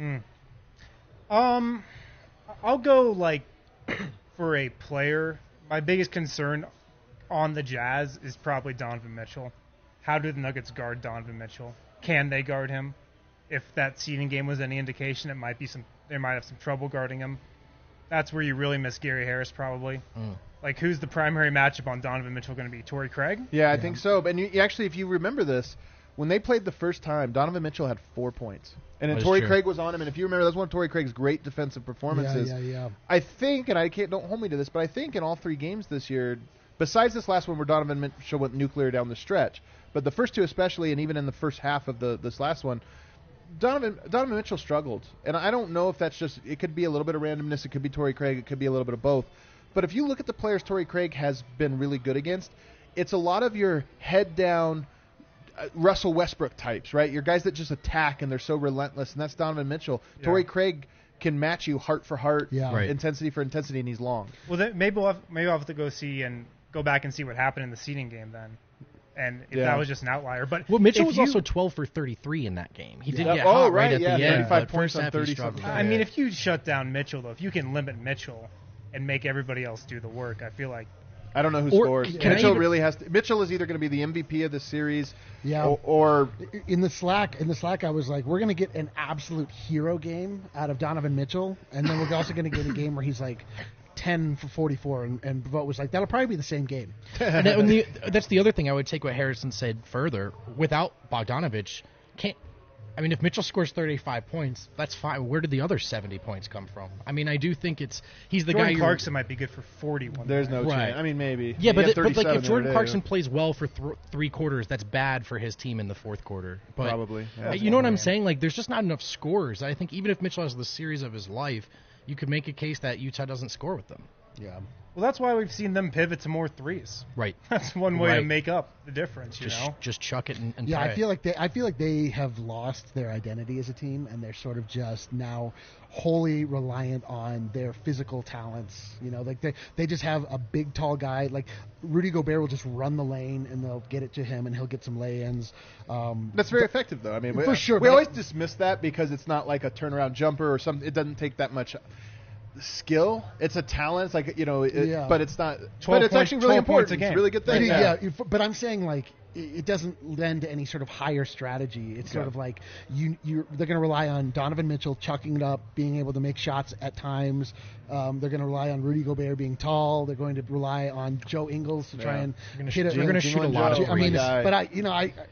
Um, I'll go like for a player. My biggest concern on the Jazz is probably Donovan Mitchell. How do the Nuggets guard Donovan Mitchell? Can they guard him? If that seeding game was any indication, it might be some. They might have some trouble guarding him. That's where you really miss Gary Harris, probably. Like, who's the primary matchup on Donovan Mitchell going to be? Torrey Craig? Yeah, I think so. But you, you actually, if you remember this, when they played the first time, Donovan Mitchell had four points, and then That is Torrey true. Craig was on him. And if you remember, that's one of Torrey Craig's great defensive performances. Yeah, yeah, yeah. I think, and I can't don't hold me to this, but I think in all three games this year, besides this last one where Donovan Mitchell went nuclear down the stretch, but the first two especially, and even in the first half of the this last one, Donovan Donovan Mitchell struggled, and I don't know if that's just it could be a little bit of randomness, it could be Torrey Craig, it could be a little bit of both. But if you look at the players Torrey Craig has been really good against, it's a lot of your head down uh, Russell Westbrook types, right? Your guys that just attack and they're so relentless, and that's Donovan Mitchell. Yeah. Torrey Craig can match you heart for heart, Yeah. Right. intensity for intensity, and he's long. Well, then maybe we'll have, maybe I'll have to go see and go back and see what happened in the seeding game then. And if Yeah. that was just an outlier. But Well, Mitchell if was you- also twelve for thirty-three in that game. He did Yeah. get Oh, hot right, right at yeah, the end. thirty-five but points first on half he thirty struggled. something. I mean, if you shut down Mitchell, though, if you can limit Mitchell and make everybody else do the work, I feel like I don't know who Or- scores. can I Mitchell even- really has to. Mitchell is either going to be the M V P of the series, Yeah. or, or In the Slack, in the Slack, I was like, we're gonna get an absolute hero game out of Donovan Mitchell, and then we're also gonna get a game where he's like ten for forty-four, and, and Vogt was like, that'll probably be the same game. and that- and the, that's the other thing I would take what Harrison said further. Without Bogdanovich, can't. I mean, if Mitchell scores thirty-five points, that's fine. Where did the other seventy points come from? I mean, I do think it's he's the Jordan guy. you're- Clarkson might be good for forty-one. there's no Right. chance. I mean, maybe. Yeah, He but, had it, but like thirty-seven if the Jordan other day. Clarkson plays well for th- three quarters, that's bad for his team in the fourth quarter. But, Probably, yeah. uh, you know what I'm saying? Like, there's just not enough scores. I think even if Mitchell has the series of his life, you could make a case that Utah doesn't score with them. Yeah. Well, that's why we've seen them pivot to more threes. Right. That's one way to Right. make up the difference. You Just know. just chuck it and, and Yeah, try I it. feel like they I feel like they have lost their identity as a team, and they're sort of just now wholly reliant on their physical talents. You know, like they they just have a big tall guy like Rudy Gobert will just run the lane and they'll get it to him and he'll get some lay-ins. Um, That's very effective, though. I mean, we, For sure, we but- always dismiss that because it's not like a turnaround jumper or something. It doesn't take that much skill. It's a talent. It's like you know, it, Yeah. but it's not. twelve But it's points- actually really twelve points important. a It's a game. really good But thing. it- Yeah. yeah, if- but I'm saying like it it doesn't lend to any sort of higher strategy. It's sort Yeah. of like you you they're going to rely on Donovan Mitchell chucking it up, being able to make shots at times. Um, they're going to rely on Rudy Gobert being tall. They're going to rely on Joe Ingles to try Yeah. and They're gonna hit sh- it. they're gonna Jingle shoot a and lot Joe, of I mean, my guy. but I you know I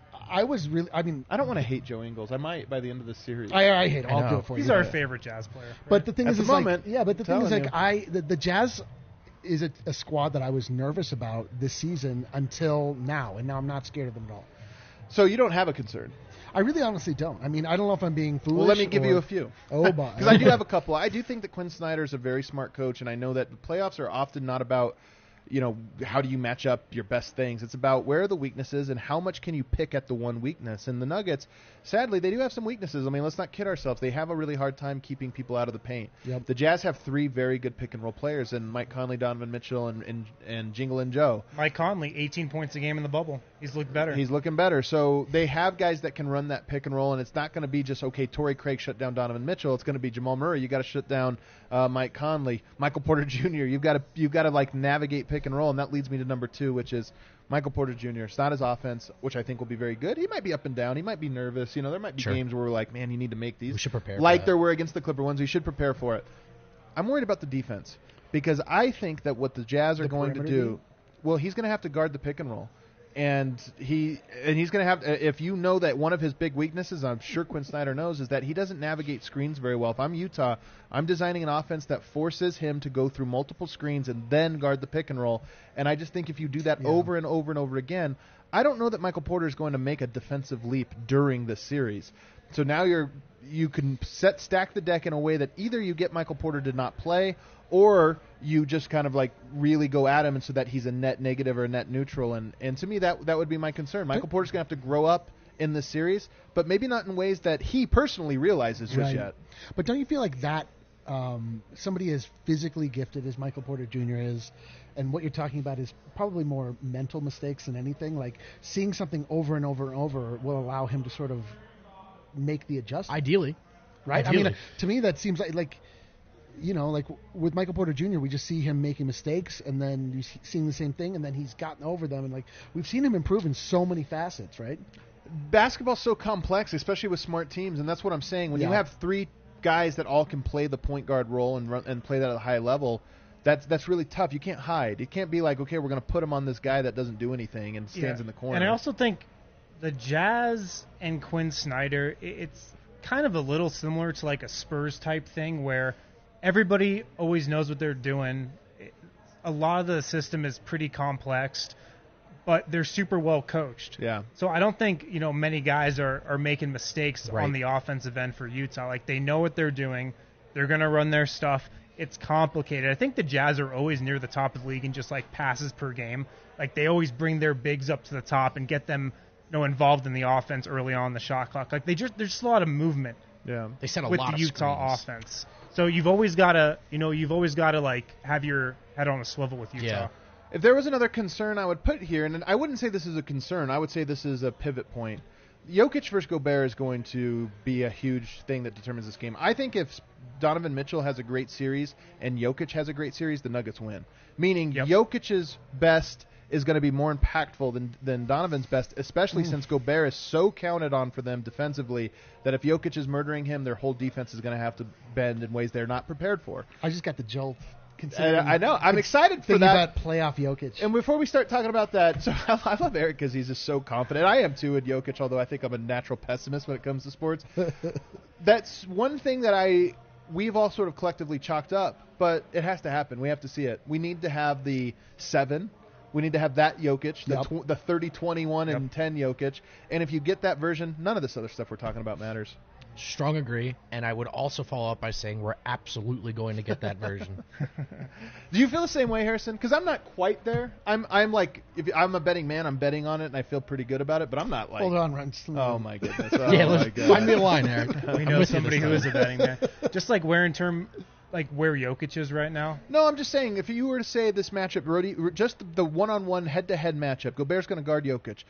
I was really I mean I don't want to hate Joe Ingles. I might by the end of the series. I I hate it. I I'll know. do it for He's you. our favorite Jazz player. right? But the thing At is, the is moment, like, yeah, but the thing is, telling like, you. I the, the Jazz is a, a squad that I was nervous about this season until now, and now I'm not scared of them at all. So you don't have a concern. I really honestly don't. I mean, I don't know if I'm being foolish. Well, let me give or- you a few. Oh, boy. Because I do have a couple. I do think that Quinn Snyder is a very smart coach, and I know that the playoffs are often not about, you know, how do you match up your best things. It's about where are the weaknesses and how much can you pick at the one weakness. And the Nuggets, sadly, they do have some weaknesses. I mean, let's not kid ourselves. They have a really hard time keeping people out of the paint. Yep. The Jazz have three very good pick and roll players, and Mike Conley, Donovan Mitchell, and and, and Jingle and Joe. Mike Conley, eighteen points a game in the bubble. He's looked better. He's looking better. So they have guys that can run that pick and roll, and it's not going to be just, okay, Torrey Craig shut down Donovan Mitchell. It's going to be Jamal Murray. You got to shut down uh, Mike Conley, Michael Porter Junior You've got to you've got to like navigate pick and roll, and that leads me to number two, which is Michael Porter Junior It's not his offense, which I think will be very good. He might be up and down. He might be nervous. You know, there might be Sure. games where we're like, man, you need to make these. We should prepare for Like that. there were against the Clipper ones. We should prepare for it. I'm worried about the defense because I think that what the Jazz are The going to perimeter do, well, he's going to have to guard the pick and roll. And he and he's going to have if you know that one of his big weaknesses, I'm sure Quinn Snyder knows, is that he doesn't navigate screens very well. If I'm Utah, I'm designing an offense that forces him to go through multiple screens and then guard the pick and roll. And I just think if you do that Yeah. over and over and over again, I don't know that Michael Porter is going to make a defensive leap during this series. So now you're you can set stack the deck in a way that either you get Michael Porter to not play, or you just kind of like really go at him, and so that he's a net negative or a net neutral. And, and to me, that that would be my concern. Michael Porter's going to have to grow up in this series, but maybe not in ways that he personally realizes just Right. yet. But don't you feel like that um, somebody as physically gifted as Michael Porter Junior is, and what you're talking about is probably more mental mistakes than anything. Like seeing something over and over and over will allow him to sort of make the adjustment, Ideally. right? I Ideally. mean, to me, that seems like like. You know, like with Michael Porter Junior, we just see him making mistakes, and then you see seeing the same thing, and then he's gotten over them, and like we've seen him improve in so many facets, right? Basketball's so complex, especially with smart teams, and that's what I'm saying. When you Yeah. have three guys that all can play the point guard role and run and play that at a high level, that's that's really tough. You can't hide. You can't be like, okay, we're going to put him on this guy that doesn't do anything and stands Yeah. in the corner. And I also think the Jazz and Quinn Snyder, i- it's kind of a little similar to like a Spurs type thing where everybody always knows what they're doing. It- A lot of the system is pretty complex, but they're super well coached. Yeah. So I don't think, you know, many guys are, are making mistakes Right. on the offensive end for Utah. Like they know what they're doing. They're going to run their stuff. It's complicated. I think the Jazz are always near the top of the league in just like passes per game. Like they always bring their bigs up to the top and get them, you know, involved in the offense early on the shot clock. Like they just there's just a lot of movement Yeah. They set a with lot the of Utah screens. offense. So you've always got to, you know, you've always got to like have your head on a swivel with Utah. Yeah. If there was another concern I would put here, and I wouldn't say this is a concern, I would say this is a pivot point. Jokic versus Gobert is going to be a huge thing that determines this game. I think if Donovan Mitchell has a great series and Jokic has a great series, the Nuggets win. Meaning Yep. Jokic's best is going to be more impactful than, than Donovan's best, especially since Gobert is so counted on for them defensively that if Jokic is murdering him, their whole defense is going to have to bend in ways they're not prepared for. I just got the jolt. And considering- I know. I'm excited for thinking that. about playoff Jokic. And before we start talking about that, so I, I love Eric because he's just so confident. I am too in Jokic, although I think I'm a natural pessimist when it comes to sports. That's one thing that I we've all sort of collectively chalked up, but it has to happen. We have to see it. We need to have the seven. We need to have that Jokic, the, Yep. tw- the thirty, twenty-one, and Yep. ten Jokic. And if you get that version, none of this other stuff we're talking about matters. Strong agree, and I would also follow up by saying we're absolutely going to get that version. Do you feel the same way, Harrison? Because I'm not quite there. I'm I'm like, if I'm a betting man, I'm betting on it, and I feel pretty good about it. But I'm not like, Hold on, Run. oh my goodness, oh yeah, my let's god. find me a line, Eric. We I'm know with you somebody this who is time. a betting man. Just like where in term, like where Jokic is right now. No, I'm just saying, if you were to say this matchup, Rody, just the one-on-one, head-to-head matchup, Gobert's going to guard Jokic.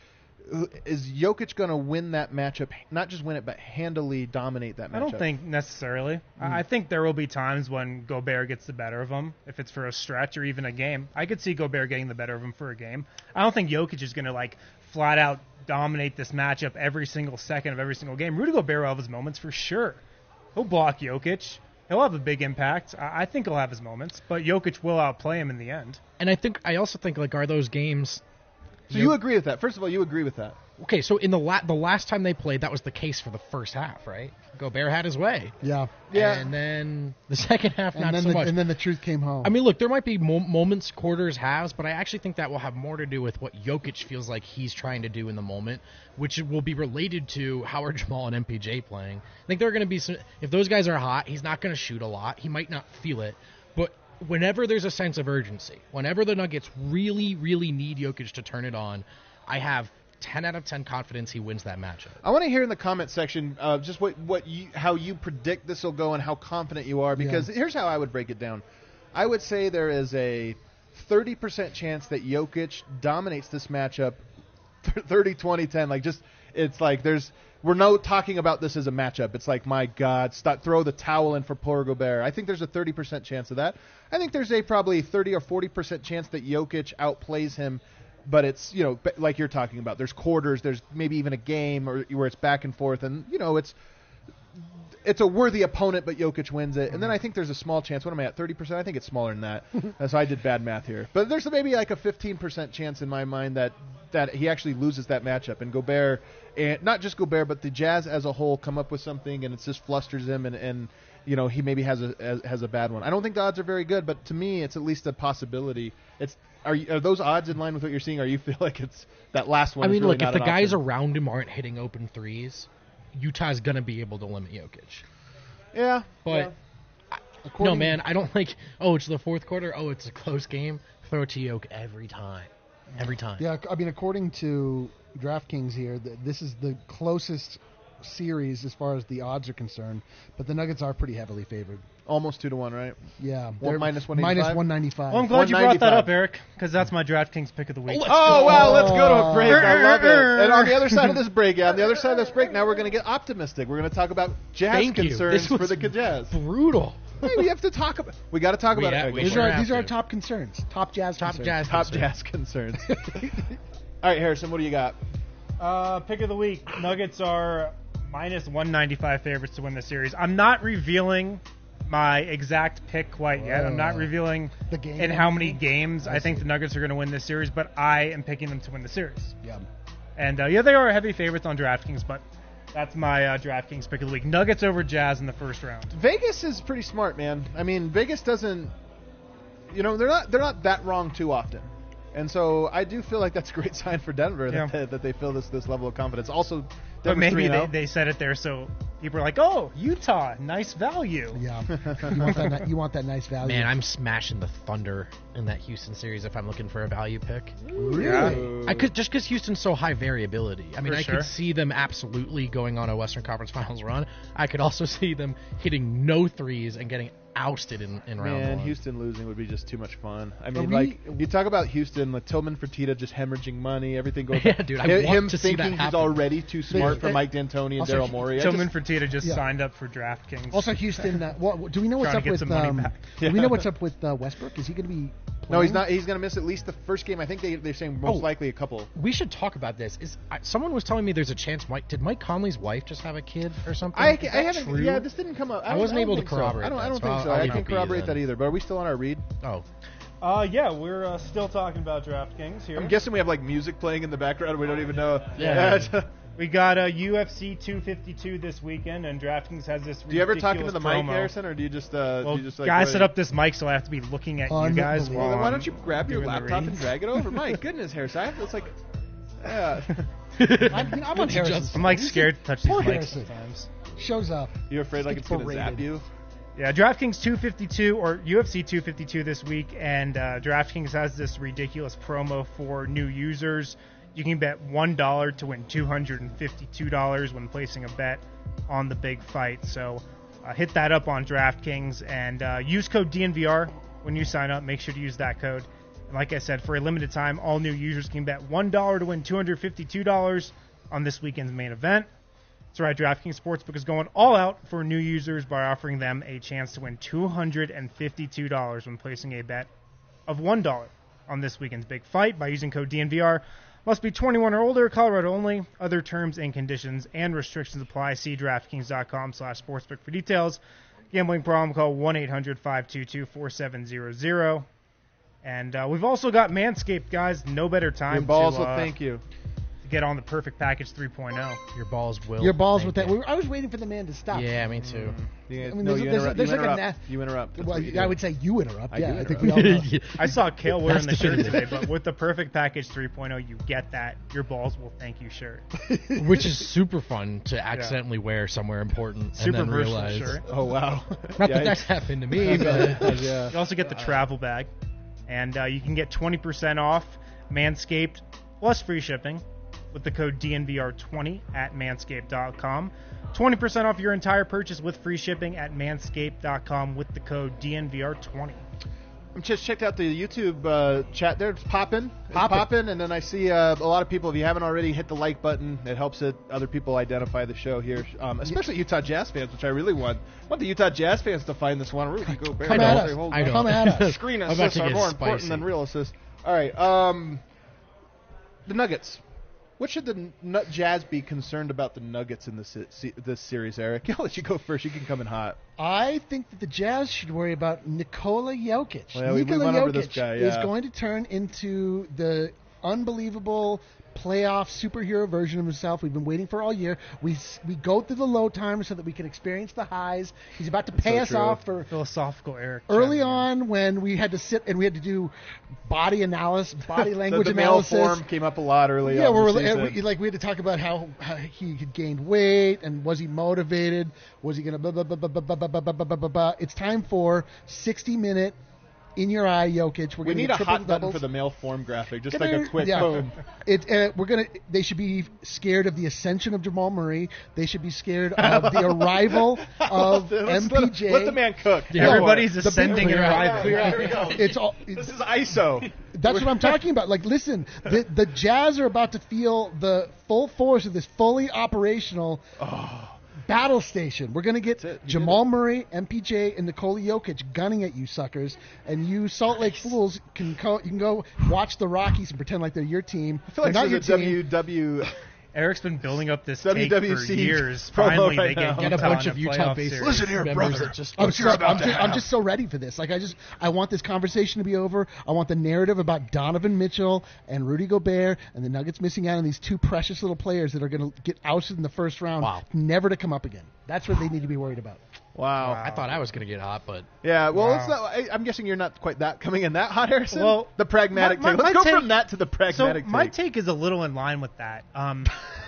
Is Jokic going to win that matchup? Not just win it, but handily dominate that matchup? I don't think necessarily. I I think there will be times when Gobert gets the better of him, if it's for a stretch or even a game. I could see Gobert getting the better of him for a game. I don't think Jokic is going to like flat out dominate this matchup every single second of every single game. Rudy Gobert will have his moments for sure. He'll block Jokic. He'll have a big impact. I I think he'll have his moments, but Jokic will outplay him in the end. And I think I also think like are those games. So you agree with that? First of all, you agree with that? Okay, so in the la- the last time they played, that was the case for the first half, right? Gobert had his way. Yeah. Yeah. And then the second half, And not then so the, much. and then the truth came home. I mean, look, there might be mo- moments, quarters, halves, but I actually think that will have more to do with what Jokic feels like he's trying to do in the moment, which will be related to how are Jamal and M P J playing. I think there are going to be some. If those guys are hot, he's not going to shoot a lot. He might not feel it, but whenever there's a sense of urgency, whenever the Nuggets really, really need Jokic to turn it on, I have ten out of ten confidence he wins that matchup. I want to hear in the comment section uh, just what, what you, how you predict this will go and how confident you are, because Yeah. here's how I would break it down. I would say there is a thirty percent chance that Jokic dominates this matchup thirty, twenty, ten. Like, just, it's like there's, we're no talking about this as a matchup. It's like, my God, stop, throw the towel in for poor Gobert. I think there's a thirty percent chance of that. I think there's a probably thirty or forty percent chance that Jokic outplays him. But it's, you know, like you're talking about, there's quarters, there's maybe even a game or where it's back and forth, and, you know, it's it's a worthy opponent, but Jokic wins it. And then I think there's a small chance. What am I at, thirty percent? I think it's smaller than that. Uh, so I did bad math here. But there's maybe like a fifteen percent chance in my mind that, that he actually loses that matchup. And Gobert, and not just Gobert, but the Jazz as a whole come up with something, and it just flusters him, and, and you know, he maybe has a has a bad one. I don't think the odds are very good, but to me, it's at least a possibility. It's Are, you, are those odds in line with what you're seeing? Or you feel like it's that last one? I is mean, really look, not if the an guys option? around him aren't hitting open threes, Utah's going to be able to limit Jokic. yeah, But yeah. no, According- man, I don't like. Oh, it's the fourth quarter. Oh, it's a close game. Throw it to Jokic every time, every time. Yeah, I mean, according to DraftKings here, th- this is the closest series as far as the odds are concerned, but the Nuggets are pretty heavily favored. almost two to one, right? Yeah, One- they're minus one minus eighty-five? one ninety-five. Well, I'm glad you brought that one ninety-five. up, Eric, because that's my DraftKings pick of the week. Let's Oh, go. wow, let's go to a break. I love it. Oh. And on the other side of this break, yeah, on the other side of this break, now we're going to get optimistic. We're going to talk about Jazz Thank you. concerns This for was the Jazz. Brutal. Hey, we have to talk about We got to talk We about ha- it. we These sure are have these are our to. top concerns, top Jazz, Top concerns. Jazz. Top concern. Jazz concerns. All right, Harrison, what do you got? Uh, pick of the week. Nuggets are minus one ninety-five favorites to win the series. I'm not revealing my exact pick quite yet. I'm not Oh. revealing The game. in how many games I, I think see. the Nuggets are going to win this series, but I am picking them to win the series. Yeah. And uh, yeah, they are heavy favorites on DraftKings, but that's my uh, DraftKings pick of the week. Nuggets over Jazz in the first round. Vegas is pretty smart, man. I mean, Vegas doesn't, you know, they're not they're not that wrong too often, and so I do feel like that's a great sign for Denver Yeah. that, that they feel this this level of confidence. Also, But Denver's maybe three and they, oh. they said it there so people are like, oh, Utah, nice value. Yeah. you want that? ni- You want that nice value? Man, I'm smashing the Thunder in that Houston series if I'm looking for a value pick. really. I could just because Houston's so high variability. I mean, For I sure. could see them absolutely going on a Western Conference Finals run. I could also see them hitting no threes and getting ousted in, in round Man, one. Houston losing would be just too much fun. I mean, we- like you talk about Houston with Tillman Fertitta just hemorrhaging money, everything goes. Yeah, dude, I him, want him to see that thinking he's happen. already too They, smart support for Mike D'Antoni and Also, Daryl Morey. I Tillman just- Fertitta just yeah. signed up for DraftKings. Also, Houston. Uh, what, do we know what's Trying up to get with? some money Um, back. Do we know what's up with uh, Westbrook? Is he going to be? No, he's playing? not. He's going to miss at least the first game. I think they, they're saying most Oh. likely a couple. We should talk about this. Is I, someone was telling me there's a chance Mike did Mike Conley's wife just have a kid or something? I, Is I that haven't. true? Yeah, this didn't come up. I don't- wasn't don't able to think so. corroborate I don't. I that, don't so think I'll- so. I'll I leave can't it be corroborate then. that either. But are we still on our read? Oh, Uh, yeah, we're uh, still talking about DraftKings here. I'm guessing we have like music playing in the background. We don't even know. Yeah. We got a U F C two fifty-two this weekend, and DraftKings has this. Do you ever talk into the ridiculous mic, promo. Harrison, or do you just? Uh, Well, do you just like, guys go set ahead- up this mic, so I have to be looking at you guys. Unbelievable. While Well, then why I'm don't you grab your doing the laptop and reads. drag it over? My goodness, Harrison. I have, it's like, yeah. I'm, I'm on Harrison's I'm like side. scared to touch these Poor mics Harrison. sometimes. Shows up. You're afraid like it's going to Berated. zap you? Yeah, DraftKings two fifty-two or U F C two fifty-two this week, and uh, DraftKings has this ridiculous promo for new users. You can bet one dollar to win two hundred fifty-two dollars when placing a bet on the big fight. So uh, hit that up on DraftKings and uh, use code D N V R when you sign up. Make sure to use that code. And like I said, for a limited time, all new users can bet one dollar to win two hundred fifty-two dollars on this weekend's main event. That's right, DraftKings Sportsbook is going all out for new users by offering them a chance to win two hundred fifty-two dollars when placing a bet of one dollar on this weekend's big fight by using code D N V R. Must be twenty-one or older, Colorado only. Other terms and conditions and restrictions apply. See DraftKings.com slash sportsbook for details. Gambling problem, call one eight hundred five two two four seven zero zero. And uh, we've also got Manscaped, guys. No better time Your balls to, will uh, thank you. to get on the Perfect Package three point oh. your balls will. Your balls thank with that. you. We were- I was waiting for the man to stop. Yeah, me too. You, I mean, no, there's- you there's- interrupt. there's you, like a interrupt. na- you interrupt. That's Well, what you I do. would say you interrupt. I yeah, do I think interrupt. we all know. I saw Kale wearing That's the shirt definitive. today, but with the Perfect Package three point oh, you get that. Your balls will thank you shirt. Which is super fun to accidentally wear somewhere important Super and then versatile realize. shirt. Oh wow. Not Yeah, that that's happened to me, but yeah. You also get the travel bag, and uh, you can get twenty percent off Manscaped plus free shipping with the code D N V R twenty at manscaped dot com. twenty percent off your entire purchase with free shipping at manscaped dot com with the code D N V R twenty. I just checked out the YouTube uh, chat there. It's popping. It's Poppin'. popping. And then I see uh, a lot of people, if you haven't already, hit the like button. It helps it, other people identify the show here, um, especially Utah Jazz fans, which I really want. I want the Utah Jazz fans to find this one. Rudy Gobert. Come I at don't. us. Hold I on. don't. Come at us. Screen I'm about assists to are get more important spicy. than real assists. All right. Um, the Nuggets. What should the Nut Jazz be concerned about the Nuggets in this se- this series, Eric? I'll let you go first. You can come in hot. I think that the Jazz should worry about Nikola Jokic. Well, we- we Nikola went Jokic over this guy, is yeah. going to turn into the unbelievable playoff superhero version of himself we've been waiting for all year. We s- we go through the low times so that we can experience the highs. He's about to pay so us true. off for Philosophical Eric. early chiming in. on when we had to sit and we had to do body analysis, body language the, the male analysis. form came up a lot early Yeah, on we're, the and season. we, like we had to talk about how, how he had gained weight and was he motivated? Was he going to blah blah blah blah blah blah blah blah blah blah blah blah. It's time for sixty minute in your eye Jokic. We're We gonna need get a triple hot button doubles. for the male form graphic, just Gonna- like a quick yeah. boom. It, uh, we're gonna. They should be scared of the ascension of Jamal Murray. They should be scared of the arrival of Let's M let, P him- J. let the man cook. Yeah. Everybody's The big ascending and clear out. arriving. Here we go. It's all. This is I S O. That's what I'm talking about. Like, listen, the the Jazz are about to feel the full force of this fully operational battle station. We're going to get That's it. You Jamal Murray, M P J, and Nikola Jokic gunning at you suckers, and you Salt Lake fools can co- you can go watch the Rockies and pretend like they're your team. I feel like They're not this your is a team. W W. Eric's been building up this W take W for C years. promo Finally, right they now. get Get a Utah bunch in of a Utah playoff based series. Listen here, members brother. that just I'm, What so, you're about I'm, to just, I'm have. just so ready for this. Like I just, I want this conversation to be over. I want the narrative about Donovan Mitchell and Rudy Gobert and the Nuggets missing out on these two precious little players that are going to get ousted in the first round, Wow. never to come up again. That's what they need to be worried about. Wow. I thought I was going to get hot, but Yeah, well, Wow. it's not, I, I'm guessing you're not quite that coming in that hot, Harrison. Well, the pragmatic my- take. my- Let's my go take- from that to the So pragmatic my take. take is a little in line with that. Um,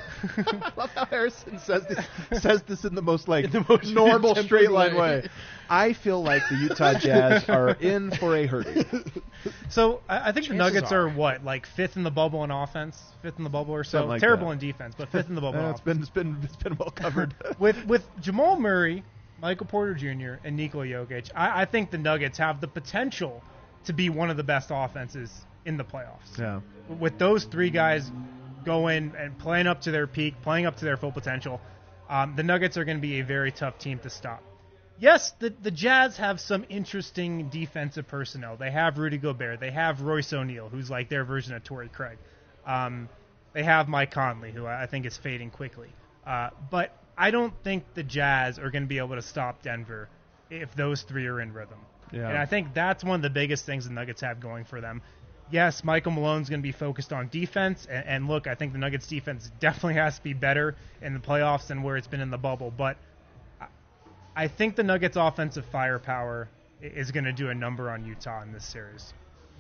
I love how Harrison says this, says this in the most like the most normal tempered straight line way. way. I feel like the Utah Jazz are in for a hurting. so I, I think the Chances Nuggets are. are. what, like fifth in the bubble in offense, fifth in the bubble or so. Something like Terrible that. in defense, but fifth in the bubble. in Uh, it's offense. been it's been it's been well covered. with with Jamal Murray, Michael Porter Junior, and Nikola Jokic, I, I think the Nuggets have the potential to be one of the best offenses in the playoffs. yeah. With those three guys go in and playing up to their peak, playing up to their full potential, um, the Nuggets are going to be a very tough team to stop. Yes, the the Jazz have some interesting defensive personnel. They have Rudy Gobert. They have Royce O'Neal, who's like their version of Torrey Craig. Um, they have Mike Conley, who I think is fading quickly. Uh, but I don't think the Jazz are going to be able to stop Denver if those three are in rhythm. Yeah. And I think that's one of the biggest things the Nuggets have going for them. Yes, Michael Malone's going to be focused on defense. And, and look, I think the Nuggets defense definitely has to be better in the playoffs than where it's been in the bubble. But I think the Nuggets' offensive firepower is going to do a number on Utah in this series.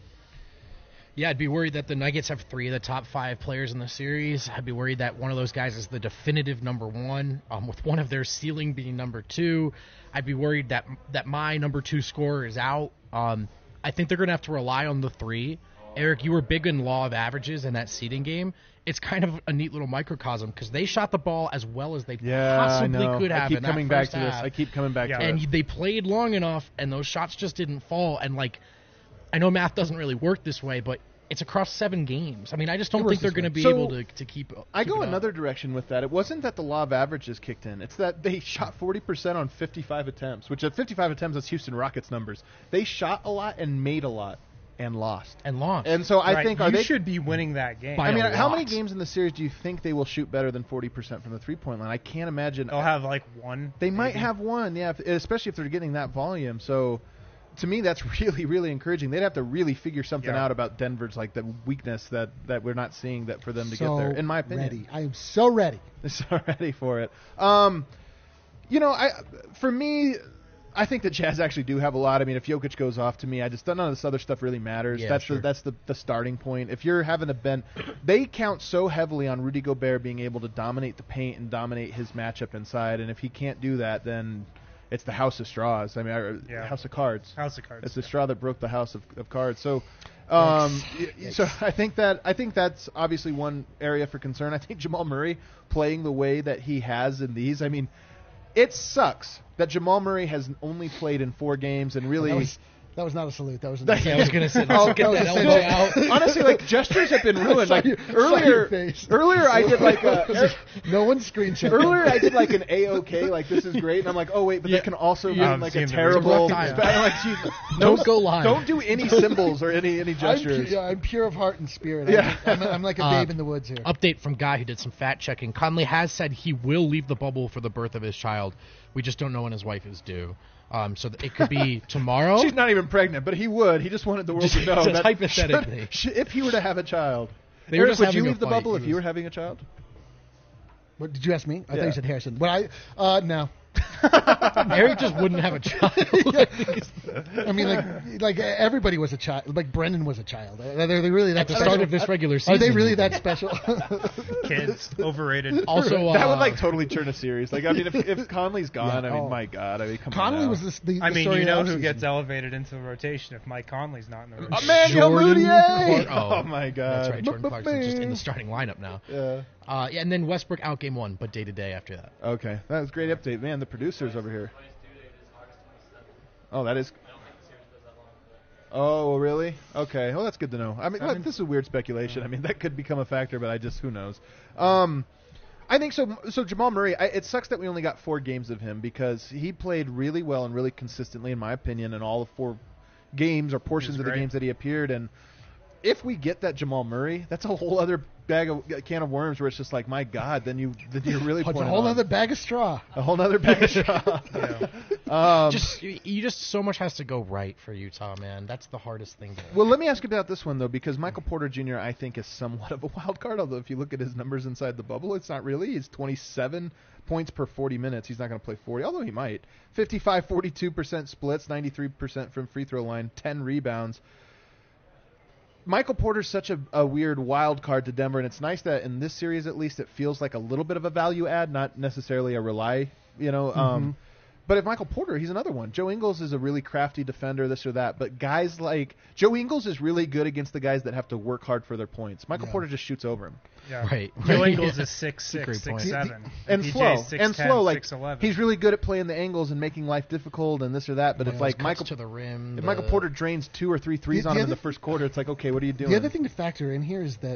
Yeah, I'd be worried that the Nuggets have three of the top five players in the series. I'd be worried that one of those guys is the definitive number one, um, with one of their ceiling being number two. I'd be worried that that my number two scorer is out. Um, I think they're going to have to rely on the three. Eric, you were big in law of averages in that seeding game. It's kind of a neat little microcosm because they shot the ball as well as they yeah, possibly I know. could have. I keep in coming that back first to this. half. I keep coming back Yeah. to And it. they played long enough, and those shots just didn't fall. And, like, I know math doesn't really work this way, but it's across seven games. I mean, I just don't It works think they're this going to way. be So, able to, to keep I keep go it up. another direction with that. It wasn't that the law of averages kicked in. It's that they shot forty percent on fifty-five attempts, which at fifty-five attempts, that's Houston Rockets numbers. They shot a lot and made a lot and lost. And lost. And so I Right, think, are you they... should be winning that game. By I mean, a how lot. many games in the series do you think they will shoot better than forty percent from the three-point line? I can't imagine. They'll have like one. They might maybe. have one, yeah, if, especially if they're getting that volume. So, to me, that's really, really encouraging. They'd have to really figure something Yeah. out about Denver's like the weakness that, that we're not seeing that for them to so get there. In my opinion, ready. I am so ready. so ready for it. Um, you know, I for me, I think the Jazz actually do have a lot. I mean, if Jokic goes off, to me, I just none of this other stuff really matters. Yeah, that's sure. the, that's the the starting point. If you're having a bend, they count so heavily on Rudy Gobert being able to dominate the paint and dominate his matchup inside. And if he can't do that, then it's the house of straws. I mean, or Yeah. house of cards. House of Cards. It's the straw that broke the house of, of cards. So, um, y- y- so I think that I think that's obviously one area for concern. I think Jamal Murray playing the way that he has in these. I mean, it sucks that Jamal Murray has only played in four games and really. That was, that was not a salute. That was an Yeah, I was going to say, Oh, let's get that that was elbow a- out. Honestly, like gestures have been ruined. Saw Like your- saw earlier, your face. earlier I did like a. No one screenshot. Earlier, I did like an A-OK, like this is great, and I'm like, oh wait, but Yeah. that can also Yeah, mean I'm like seeing a the terrible. results. I'm like, geez, Don't no- go live. Don't do any symbols or any any I'm, pu- gestures. yeah, I'm pure of heart and spirit. Yeah. I'm, I'm, I'm like a Uh, babe in the woods here. Update from Guy who did some fact checking. Conley has said he will leave the bubble for the birth of his child. We just don't know when his wife is due. Um, so th- it could be tomorrow. She's not even pregnant, but he would. He just wanted the world Just- to know just that hypothetically. should- should- if he were to have a child. They were Eric, just would having you a leave the fight. bubble He if you was- were having a child? What, did you ask me? I Yeah. thought you said Harrison. But I, uh, no. Eric just wouldn't have a child. I mean, like, like everybody was a child. Like Brendan was a child. Are they really that At the special? start of this regular season. Are they really that special? Kids overrated. Also, uh, That would like totally turn a series. Like I mean, if, if Conley's gone, Yeah, I mean, oh. my God, I mean, come on. Conley now. was this, the, the I mean, story you of know the who offseason. gets elevated into the rotation if Mike Conley's not in the rotation. Emmanuel Jordan Mudiay. Clark- Oh, my God. That's right. Jordan Clarkson's just in the starting lineup now. Yeah. Uh, yeah, and then Westbrook out game one, but day to day after that. Okay, that was a great update, man. The producers over here. Oh, that is. Oh, really? Okay. Well, that's good to know. I mean, look, this is weird speculation. I mean, that could become a factor, but I just who knows. Um, I think so. So Jamal Murray. I, it sucks that we only got four games of him because he played really well and really consistently, in my opinion, in all the four games or portions He was of the great. games that he appeared. And if we get that Jamal Murray, that's a whole other bag of a can of worms where it's just like, my God, then you then you're really It's a pointing whole on- other bag of straw. a whole other bag of straw. um, Just you just so much has to go right for Utah, man. That's the hardest thing. To well, let me ask you about this one though, because Michael Porter Junior I think is somewhat of a wild card. Although if you look at his numbers inside the bubble, it's not really. He's twenty-seven points per forty minutes. He's not going to play forty, although he might. fifty-five forty-two percent splits, ninety-three percent from free throw line, ten rebounds. Michael Porter's such a, a weird wild card to Denver, and it's nice that in this series at least it feels like a little bit of a value add, not necessarily a rely. You know. Mm-hmm. Um, But if Michael Porter, he's another one. Joe Ingles is a really crafty defender, this or that. But guys like Joe Ingles is really good against the guys that have to work hard for their points. Michael Yeah. Porter just shoots over him. Yeah. Right. Joe Right. Ingles Yeah. is six That's a great six, point. six seven, And P J's slow. six And ten, slow. Like six eleven. he's really good at playing the angles and making life difficult and this or that. But if Those like cuts Michael to the rim, if the- Michael Porter drains two or three threes The- on the him in the other- first quarter, it's like, okay, what are you doing? The other thing to factor in here is that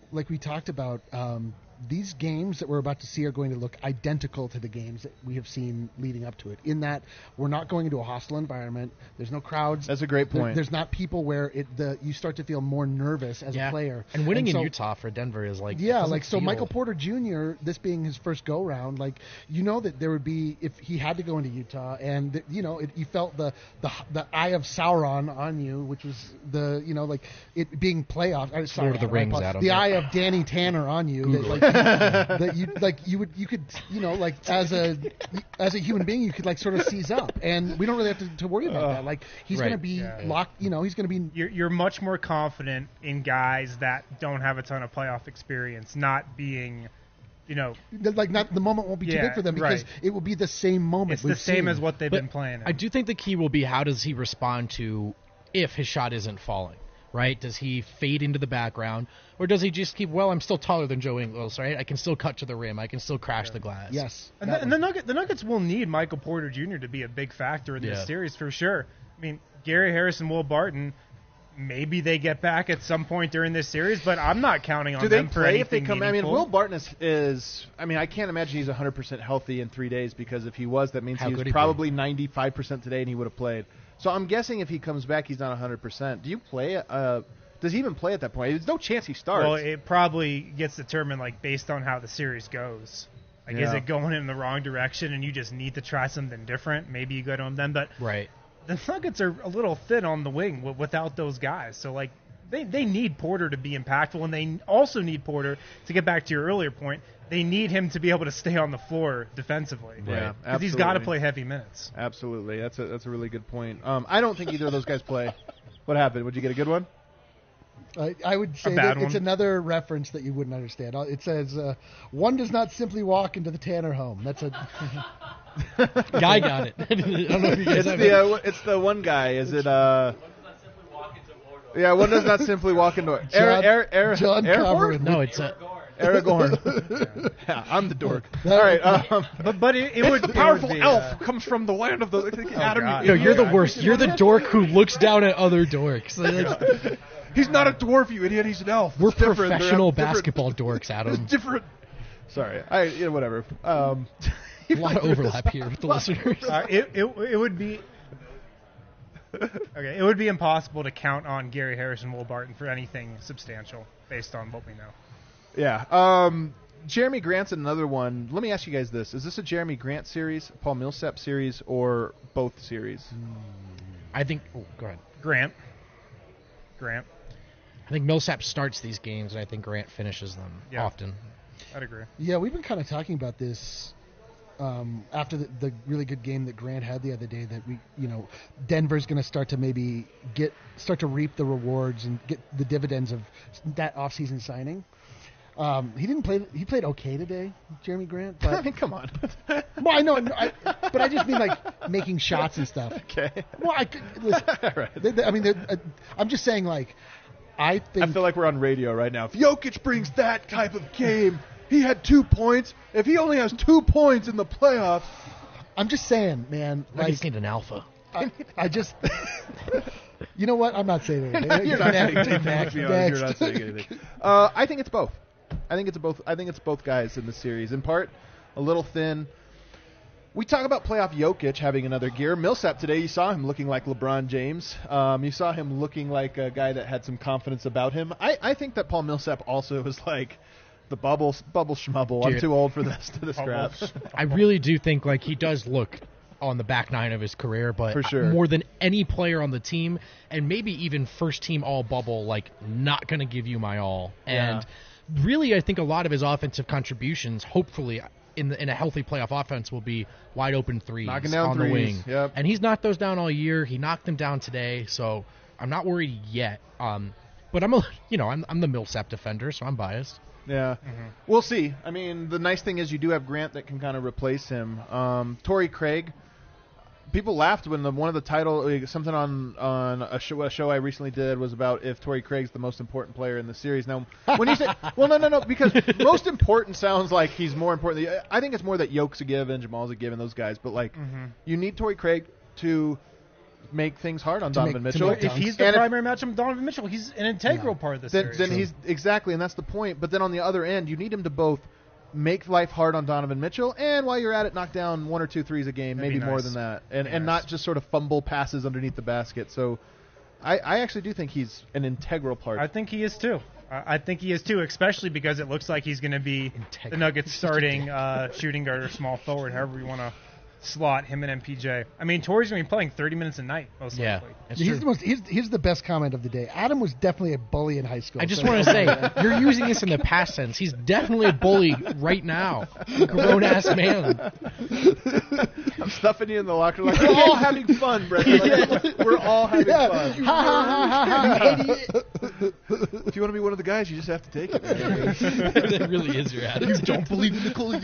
like we talked about, um, these games that we're about to see are going to look identical to the games that we have seen leading up to it. In that we're not going into a hostile environment. There's no crowds. That's a great There- point. there's not people where it the you start to feel more nervous as Yeah. a player. And winning so- in Utah for Denver is like it Yeah, doesn't like so feel- Michael Porter Junior, this being his first go round, like you know that there would be if he had to go into Utah, and that, you know it, you felt the, the the eye of Sauron on you, which was the you know like it being playoff. uh, sorry, Lord of the Adam, I Rings, apologize. Adam. The eye of Danny Tanner on you. That, like, that you like you would you could you know like as a as a human being you could like sort of seize up, and we don't really have to, to worry about that. Like he's Right. going to be Yeah. locked. You know he's going to be. You're, you're much more confident in guys that don't have a ton of playoff experience, not being, you know, Like not the moment won't be too Yeah, big for them because right. it will be the same moment. it's the we've same seen. as what they've But been playing. I do think the key will be how does he respond to if his shot isn't falling, right? Does he fade into the background, or does he just keep, well, I'm still taller than Joe Ingles, right? I can still cut to the rim. I can still crash the glass. Yes. And, that the, and the, one. Nugget, the Nuggets will need Michael Porter Junior to be a big factor in Yeah. this series for sure. I mean, Gary Harris and Will Barton, maybe they get back at some point during this series, but I'm not counting on Do they them for play anything if they come? I mean, meaningful. Will Barton is, is. I mean, I can't imagine he's one hundred percent healthy in three days because if he was, that means How he was could he be? probably ninety-five percent today and he would have played. So I'm guessing if he comes back, he's not one hundred percent. Do you play? Uh, does he even play at that point? There's no chance he starts. Well, it probably gets determined like based on how the series goes. Like, is Yeah. it going in the wrong direction and you just need to try something different? Maybe you go to him then. But Right. the Nuggets are a little thin on the wing w- without those guys. So, like, they, they need Porter to be impactful, and they also need Porter, to get back to your earlier point, they need him to be able to stay on the floor defensively. Yeah, Because he's got to absolutely. play heavy minutes. Absolutely, that's a that's a really good point. Um, I don't think either of those guys play. What happened? Would you get a good one? I, I would say bad that it's one. another reference that you wouldn't understand. Uh, It says, uh, "One does not simply walk into the Tanner home." That's a Guy got it. I don't know if you guys It's have the it. uh, it's the one guy. Is it? Uh, yeah, one does not simply walk into. John, John- Air, Air, John Aragorn? Covered. No, it's a Aragorn. yeah, I'm the dork. That All right. would Um, But but it, it would the it powerful would be, elf uh, comes from the land of the Adam. God. Yo, you're the worst. You're the dork who looks down at other dorks. Like, He's not a dwarf, you idiot. He's an elf. we're It's different. They're professional different- basketball dorks, It's Adam. different. Sorry. I yeah, whatever. Um, A lot of overlap here with the listeners. Uh, it, it it would be okay. It would be impossible to count on Gary Harris and Will Barton for anything substantial based on what we know. yeah. Um, Jeremy Grant's another one. Let me ask you guys this: is this a Jeremy Grant series, Paul Millsap series, or both series? I think. Oh, go ahead. Grant, Grant, I think Millsap starts these games, and I think Grant finishes them Yeah. often. I'd agree. yeah. We've been kind of talking about this um, after the, the really good game that Grant had the other day. That we, you know, Denver's going to start to maybe get start to reap the rewards and get the dividends of that offseason signing. Um, he didn't play. He played okay today, Jeremy Grant. I But mean, come on. well, I know, I, but I just mean like making shots and stuff. okay. Well, I could- listen, Right. they- they- I mean, they're- uh, I'm just saying, like, I think I feel like we're on radio right now. If Jokic brings that type of game, he had two points. If he only has two points in the playoffs, I'm just saying, man. I Like, just need an alpha. I, I just, you know what? I'm not saying anything. you're not saying Next, anything. next, You're not next. saying anything. Uh, I think it's both. I think it's both. I think it's both guys in the series. In part, a little thin. We talk about playoff Jokic having another gear. Millsap today, you saw him looking like LeBron James. Um, you saw him looking like a guy that had some confidence about him. I, I think that Paul Millsap also was like the bubble bubble schmubble. I'm Dude. too old for this to this crap. I really do think like he does look on the back nine of his career, but For sure. more than any player on the team, and maybe even first team all bubble, like not going to give you my all. And really, I think a lot of his offensive contributions, hopefully, in the, in a healthy playoff offense, will be wide open threes Knocking down on threes, the wing. yep. And he's knocked those down all year. He knocked them down today, so I'm not worried yet. Um, but I'm a, you know, I'm I'm the Millsap defender, so I'm biased. Yeah, we'll see. I mean, the nice thing is you do have Grant that can kind of replace him. Um, Torrey Craig. People laughed when the, one of the title uh, something on on a show, a show I recently did was about if Torrey Craig's the most important player in the series. Now, when you say, well, no, no, no, because most important sounds like he's more important. I think it's more that Yoke's a given, Jamal's a given, those guys. But like, you need Torrey Craig to make things hard on To Donovan make- to Mitchell. make If he's the And if- primary matchup with Donovan Mitchell, he's an integral Yeah. part of the then, series. then he's exactly, and that's the point. But then on the other end, you need him to both make life hard on Donovan Mitchell, and while you're at it, knock down one or two threes a game, That'd maybe be more nice. than that, and Be and nice. not just sort of fumble passes underneath the basket. So, I, I actually do think he's an integral part. I think he is too. I I think he is too, especially because it looks like he's going to be Integral. the Nuggets' starting uh, shooting guard or small forward, however you want to slot him and M P J. I mean, Torrey's going to be playing thirty minutes a night, most Yeah, likely. it's He's true. the most. He's, he's the best comment of the day. Adam was definitely a bully in high school. I just so- want to say, you're using this in the past tense. He's definitely a bully right now. Grown ass man. I'm stuffing you in the locker. Like, we're all having fun, Brett. Like, we're all having Yeah. fun. Ha ha ha ha ha! Idiot. If you want to be one of the guys, you just have to take it. Man. That really is your attitude. Don't believe in Nikola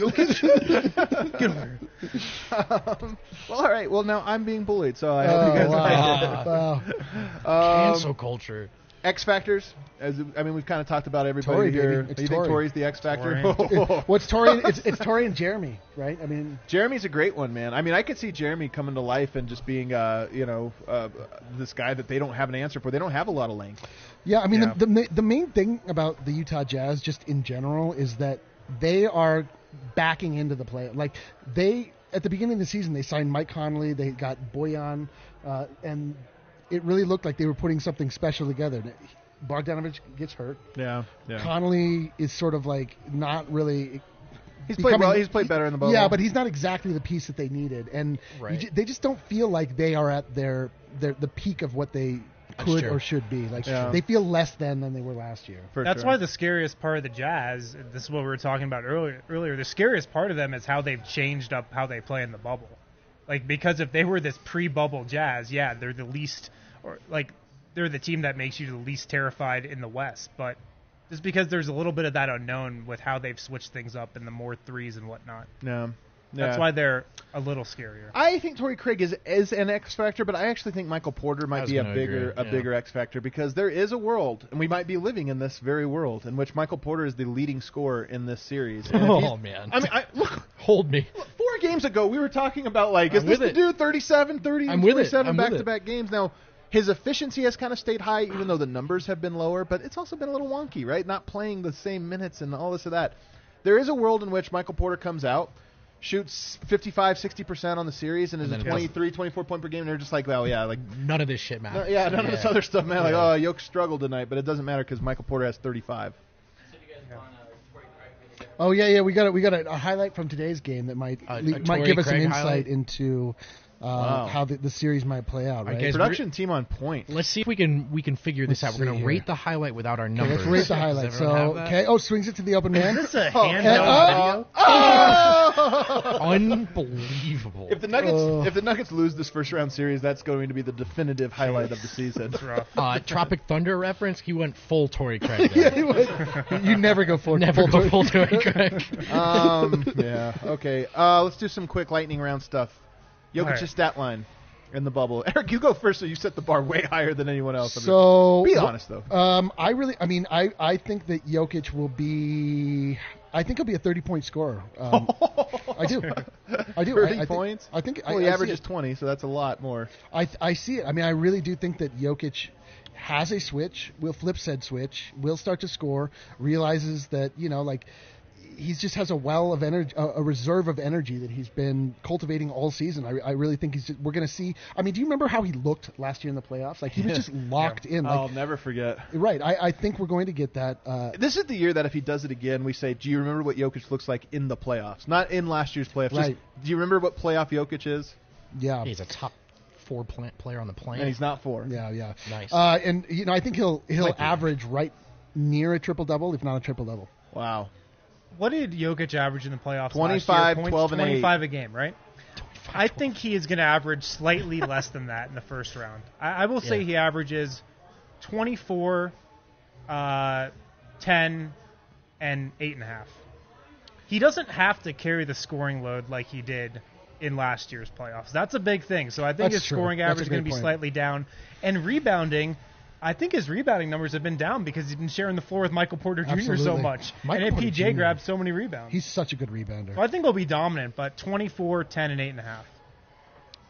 Jokic? Get over here. Um, well, all right. Well, now I'm being bullied, so I hope Oh, you guys wow. like it. wow. Um, Cancel culture. X Factors. As I mean, we've kind of talked about everybody Torrey, here. baby. It's you think Torrey. Torrey's the X Factor? What's Tori? It's, it's Tori and Jeremy, right? I mean, Jeremy's a great one, man. I mean, I could see Jeremy coming to life and just being, uh, you know, uh, this guy that they don't have an answer for. They don't have a lot of length. yeah. I mean, Yeah. The, the ma- the main thing about the Utah Jazz, just in general, is that they are backing into the play. Like they at the beginning of the season, they signed Mike Conley, they got Boyan, uh, and it really looked like they were putting something special together. Bogdanovich gets hurt. Yeah, yeah. Conley is sort of like not really. He's played becoming- well. He's played better in the bubble. Yeah, but he's not exactly the piece that they needed, and you Right. ju- they just don't feel like they are at their their the peak of what they That's could true. or should be. Like Yeah. they feel less than than they were last year. For That's sure. why the scariest part of the Jazz, this is what we were talking about earlier, earlier, the scariest part of them is how they've changed up how they play in the bubble. Like, because if they were this pre-bubble Jazz, yeah, they're the least, or like, they're the team that makes you the least terrified in the West. But just because there's a little bit of that unknown with how they've switched things up and the more threes and whatnot. Yeah. That's Yeah. why they're a little scarier. I think Torrey Craig is is an X factor, but I actually think Michael Porter I might was be a gonna bigger agree, a yeah. bigger X factor because there is a world, and we might be living in this very world in which Michael Porter is the leading scorer in this series. And if Oh, he's- man. I mean, I, look, Hold me. four games ago we were talking about like, is I'm this with the it. dude thirty-seven, thirty, I'm with it. twenty-seven I'm with back-to-back games now? His efficiency has kind of stayed high, even though the numbers have been lower. But it's also been a little wonky, right? Not playing the same minutes and all this or that. There is a world in which Michael Porter comes out, shoots fifty-five, sixty percent on the series, and is And a then it twenty-three, twenty-four point per game. And they're just like, well, yeah, like, None of this shit no, matters. yeah, none of this Yeah. other stuff, man. Like, Yeah. oh, Yoke struggled tonight, but it doesn't matter because Michael Porter has thirty-five. Oh yeah, yeah. We got a, we got a, a highlight from today's game that might A- a le- might Torrey give us an Craig insight highlight? into uh, Wow. how the, the series might play out. Right. guys- Production team on point. Let's see if we can we can figure this Let's out. We're see gonna here. rate the highlight without our Okay, numbers. let's rate the Does highlight. everyone So have that? okay. Oh, swings it to the open man. Is this a Oh, handheld uh, video? Unbelievable. If the Nuggets Oh. if the Nuggets lose this first round series, that's going to be the definitive highlight of the season. It's rough. uh, Tropic Thunder reference, he went full Torrey Craig there. you never go for Never full go full Torrey. Torrey Craig. um, yeah. Okay. Uh, let's do some quick lightning round stuff. Jokic's All right. stat line in the bubble. Eric, you go first, so you set the bar way higher than anyone else. So be honest though. Um, I really, I mean, I, I think that Jokic will be. I think he'll be a thirty-point scorer. Um, I do. I do. Thirty I, I think- points. I think. Well, I, he I see averages it. twenty, so that's a lot more. I I see it. I mean, I really do think that Jokic has a switch. Will flip said switch. Will start to score. Realizes that you know, like he just has a well of energy, a, a reserve of energy that he's been cultivating all season. I, I really think he's. Just, we're going to see. I mean, do you remember how he looked last year in the playoffs? Like he was just locked in. Like I'll never forget. right. I, I think we're going to get that. Uh, This is the year that if he does it again, we say, do you remember what Jokic looks like in the playoffs? Not in last year's playoffs. Just, Right. do you remember what playoff Jokic is? yeah. He's a top four pla- player on the planet. And he's not four. Yeah, yeah. Nice. Uh, and you know, I think he'll he'll Might be. average right near a triple double, if not a triple double. Wow. What did Jokic average in the playoffs? twenty-five, last year? Points, twelve, and eight. twenty-five a game, right? I think he is going to average slightly less than that in the first round. I, I will say Yeah. he averages twenty-four, uh, ten, and eight and a half. He doesn't have to carry the scoring load like he did in last year's playoffs. That's a big thing. So I think That's his true. scoring That's a average is going to great be point. slightly down. And rebounding, I think his rebounding numbers have been down because he's been sharing the floor with Michael Porter Junior so Absolutely. much. Michael and Porter M P J Junior grabbed so many rebounds. He's such a good rebounder. So I think he'll be dominant, but twenty-four, ten, and eight and a half.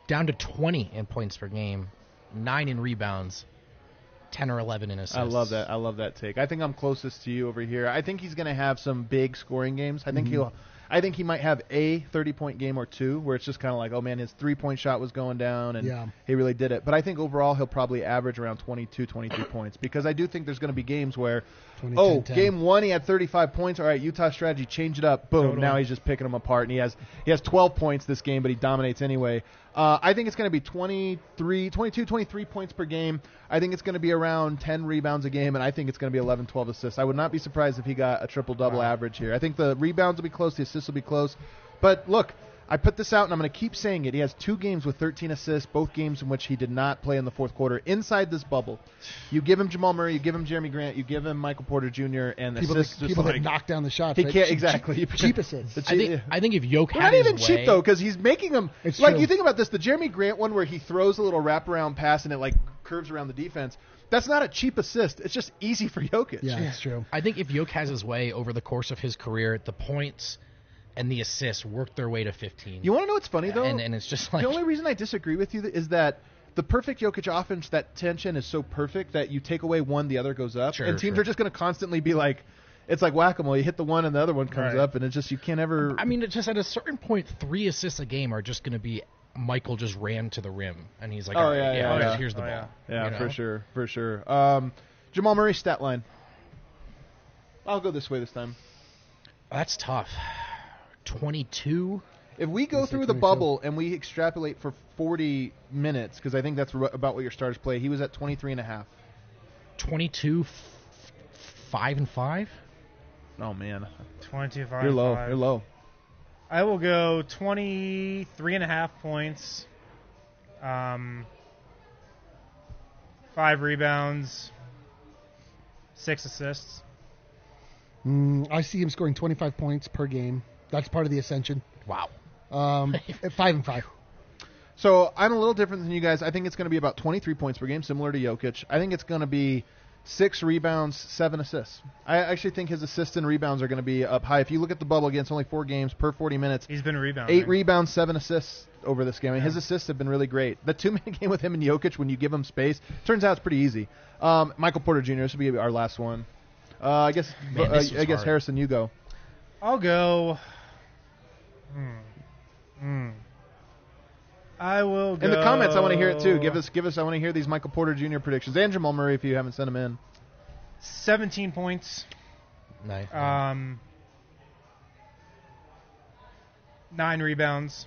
down to twenty in points per game, nine in rebounds, ten or eleven in assists. I love that. I love that take. I think I'm closest to you over here. I think he's going to have some big scoring games. I think Mm-hmm. he'll. I think he might have a thirty-point game or two where it's just kind of like, oh, man, his three-point shot was going down, and Yeah. he really did it. But I think overall he'll probably average around twenty-two, twenty-three points because I do think there's going to be games where, twenty, oh, ten, ten. game one he had thirty-five points. All right, Utah strategy, change it up. Boom, Totally. now he's just picking them apart. And he has he has twelve points this game, but he dominates anyway. Uh, I think it's going to be twenty-three, twenty-two, twenty-three points per game. I think it's going to be around ten rebounds a game, and I think it's going to be eleven, twelve assists. I would not be surprised if he got a triple-double Wow. average here. I think the rebounds will be close, the assists will be close. But look, I put this out, and I'm going to keep saying it. He has two games with thirteen assists, both games in which he did not play in the fourth quarter inside this bubble. You give him Jamal Murray, you give him Jeremy Grant, you give him Michael Porter Junior, and People, assists that, just people like that knock down the shots. he right? can't Cheap- exactly cheap, cheap assists. The I think I think if Yoke But had not his even way, cheap though, because he's making them. It's like true. you think about this, the Jeremy Grant one where he throws a little wraparound pass and it like curves around the defense. That's not a cheap assist. It's just easy for Jokic. Yeah, that's true. I think if Yoke has his way over the course of his career, the points and the assists work their way to fifteen. You want to know what's funny though? and, and it's just like the only reason I disagree with you is that the perfect Jokic offense, that tension is so perfect that you take away one, the other goes up, Sure, and teams sure. are just going to constantly be like, it's like whack-a-mole. You hit the one and the other one comes Right. up, and it's just you can't ever. I mean, it just at a certain point, three assists a game are just going to be Michael just ran to the rim, and he's like, Oh, all right, yeah, yeah, here's, yeah. here's the Oh, ball. yeah, you know? for sure, for sure. Um, Jamal Murray stat line. I'll go this way this time. That's tough. twenty-two. If we go Let's say through the twenty-two. bubble and we extrapolate for forty minutes, because I think that's r- about what your starters play, he was at twenty-three and a half. twenty-two, f- five and five. Oh, man. twenty-two, five, You're low. five. You're low. I will go twenty-three and a half points, um, five rebounds, six assists. Mm, I see him scoring twenty-five points per game. That's part of the ascension. Wow. Um, at five and five. So I'm a little different than you guys. I think it's going to be about twenty-three points per game, similar to Jokic. I think it's going to be six rebounds, seven assists. I actually think his assists and rebounds are going to be up high. If you look at the bubble against only four games per forty minutes, He's been rebounding. eight rebounds, seven assists over this game. I mean, his assists have been really great. The two-minute game with him and Jokic, when you give him space, turns out it's pretty easy. Um, Michael Porter Junior This will be our last one. Uh, I guess. Man, uh, this I was guess hard. Harrison, you go. I'll go. Hmm. Hmm. I will go. In the comments, I want to hear it too. Give us, give us. I want to hear these Michael Porter Junior predictions and Jamal Murray if you haven't sent them in. seventeen points. Nice. Um, nine rebounds.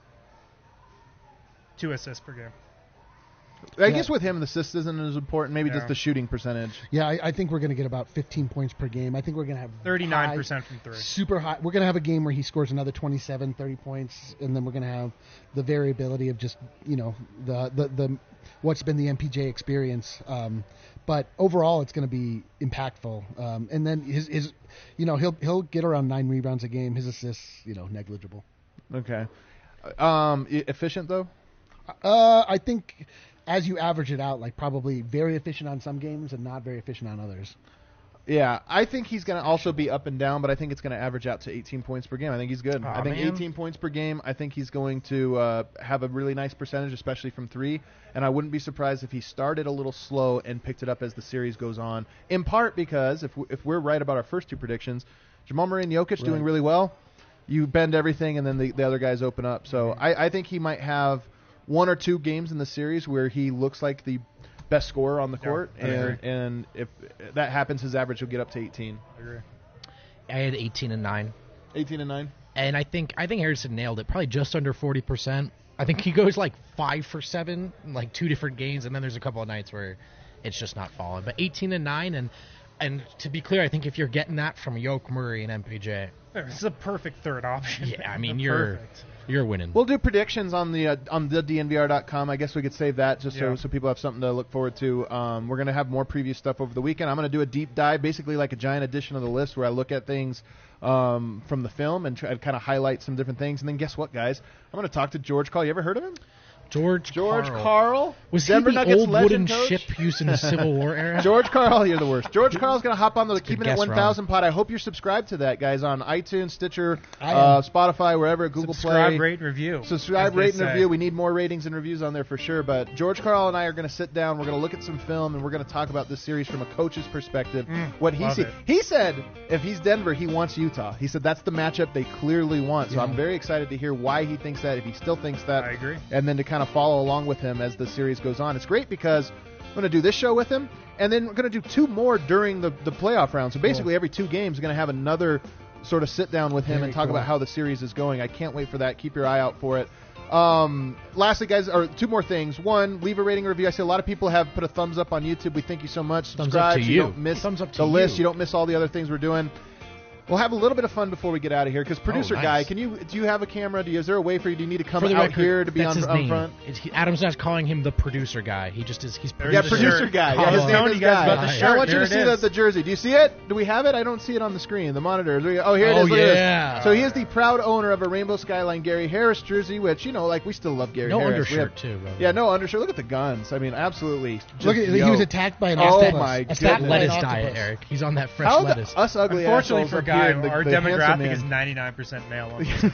Two assists per game. I Yeah. guess with him, the assist isn't as important. Maybe Yeah. just the shooting percentage. Yeah, I, I think we're going to get about fifteen points per game. I think we're going to have thirty-nine high- percent from three. Super high. We're going to have a game where he scores another twenty-seven, thirty points, and then we're going to have the variability of just, you know, the the, the what's been the M P J experience. Um, but overall, it's going to be impactful. Um, and then his, his, you know, he'll he'll get around nine rebounds a game. His assists, you know, negligible. Okay. Um, e- efficient though. Uh, I think as you average it out, like probably very efficient on some games and not very efficient on others. Yeah, I think he's going to also be up and down, but I think it's going to average out to eighteen points per game. I think he's good. Aw, I think man. eighteen points per game. I think he's going to uh, have a really nice percentage, especially from three. And I wouldn't be surprised if he started a little slow and picked it up as the series goes on. In part because if we, if we're right about our first two predictions, Jamal Murray and Jokic doing Right. really well. You bend everything, and then the, the other guys open up. So I, I think he might have one or two games in the series where he looks like the best scorer on the Yeah, court, I agree. and and if that happens, his average will get up to eighteen. I agree. I had eighteen and nine. eighteen and nine. And I think I think Harrison nailed it. Probably just under forty percent. I think he goes like five for seven, in like two different games, and then there's a couple of nights where it's just not falling. But eighteen and nine, and and to be clear, I think if you're getting that from Yoke, Murray, and M P J, It's a perfect third option. yeah, I mean They're you're perfect. you're winning. We'll do predictions on the uh, on the D N V R dot com. I guess we could save that just so, Yeah. so people have something to look forward to. Um, we're going to have more preview stuff over the weekend. I'm going to do a deep dive, basically like a giant edition of the list where I look at things um, from the film and try to kind of highlight some different things. And then guess what, guys? I'm going to talk to George Call. You ever heard of him? George George Karl. Karl. Was Denver he the Nuggets old wooden legend coach? ship used in the Civil War era? George Karl, you're the worst. George Karl's going to hop on the good Keeping It guess, one thousand pod. I hope you're subscribed to that, guys, on iTunes, Stitcher, I am. uh, Spotify, wherever, Google Subscribe, Play. rate, review. Subscribe, as they rate, and say. review. We need more ratings and reviews on there for sure. But George Karl and I are going to sit down. We're going to look at some film, and we're going to talk about this series from a coach's perspective. Mm, what he love see. it. He said if he's Denver, he wants Utah. He said that's the matchup they clearly want. So Yeah. I'm very excited to hear why he thinks that, if he still thinks that. I agree. And then to kind of follow along with him as the series goes on. It's great because I'm going to do this show with him, and then we're going to do two more during the, the playoff round. So basically, Cool. every two games, we're going to have another sort of sit down with him Very and talk cool. about how the series is going. I can't wait for that. Keep your eye out for it. Um, lastly, guys, or two more things. One, leave a rating or review. I see a lot of people have put a thumbs up on YouTube. We thank you so much. Thumbs Subscribe up to so you. you don't miss Thumbs up to the list. you. You don't miss all the other things we're doing. We'll have a little bit of fun before we get out of here because producer Oh, nice. guy, can you do you have a camera? Do you, is there a way for you? Do you need to come For the out record, here to be that's on, his on name. front? It's, he, Adam's not calling him the producer guy. He just is. He's There's Yeah, the producer shirt. guy. Yeah, his Oh. name Telling is you guys Guy. about the Yeah. shirt. I want you Here to it see is. the, the jersey. Do you see it? Do we have it? I don't see it on the screen, the monitor. Oh, here it Oh, is. Look at this. yeah. So he is the proud owner of a Rainbow Skyline Gary Harris jersey, which, you know, like, we still love Gary no Harris. We undershirt have- too. Bro. Yeah, no undershirt. Look at the guns. I mean, absolutely. Just Look at he yo. was attacked by an Oh, octopus. my It's Attacked that by an lettuce octopus. diet, Eric. He's on that fresh How the, lettuce. us ugly Unfortunately assholes for up Guy, here, the, our the handsome demographic man. is ninety-nine percent male. On this.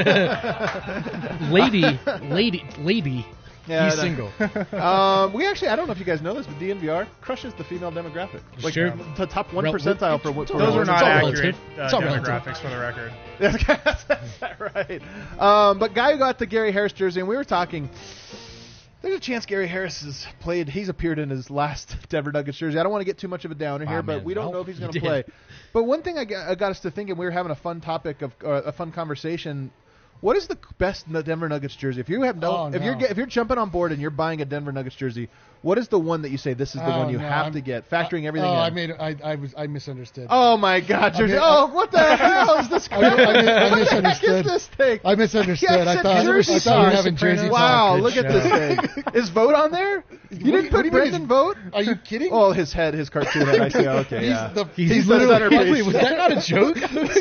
lady, lady, lady. Yeah, he's no. single. um, we actually, I don't know if you guys know this, but D N V R crushes the female demographic. Like, Sure. the top one Rel- percentile for what for Those what- are It's not all accurate relative. uh, It's all relative. demographics for the record. That's that right. Um, but Guy got the Gary Harris jersey, and we were talking. There's a chance Gary Harris has played. He's appeared in his last Denver Nuggets jersey. I don't want to get too much of a downer Wow, here, but man. we don't Well, know if he's he going to did. play. But one thing I got, I got us to thinking, we were having a fun topic of uh, a fun conversation. What is the best Denver Nuggets jersey? If you have no, Oh, if you're no. get- if you're jumping on board and you're buying a Denver Nuggets jersey, what is the one that you say this is the Oh, one you no, have I'm- to get, factoring everything Oh, in? I made I I was I misunderstood. Oh my God, jersey! mean, oh, what the hell is this? I, I, I, What the heck misunderstood. is this thing? I misunderstood. Yeah, I it's a thought, I jersey thought we were talk. having jersey Wow, talk. look at this thing. Is Vote on there? You What- didn't what put do you mean Brendan is- Vote? Are you kidding? Oh, his head, his cartoon head. I see. Okay, He's yeah. the- He's, He's the literally. centerpiece. Wait, was that not a joke?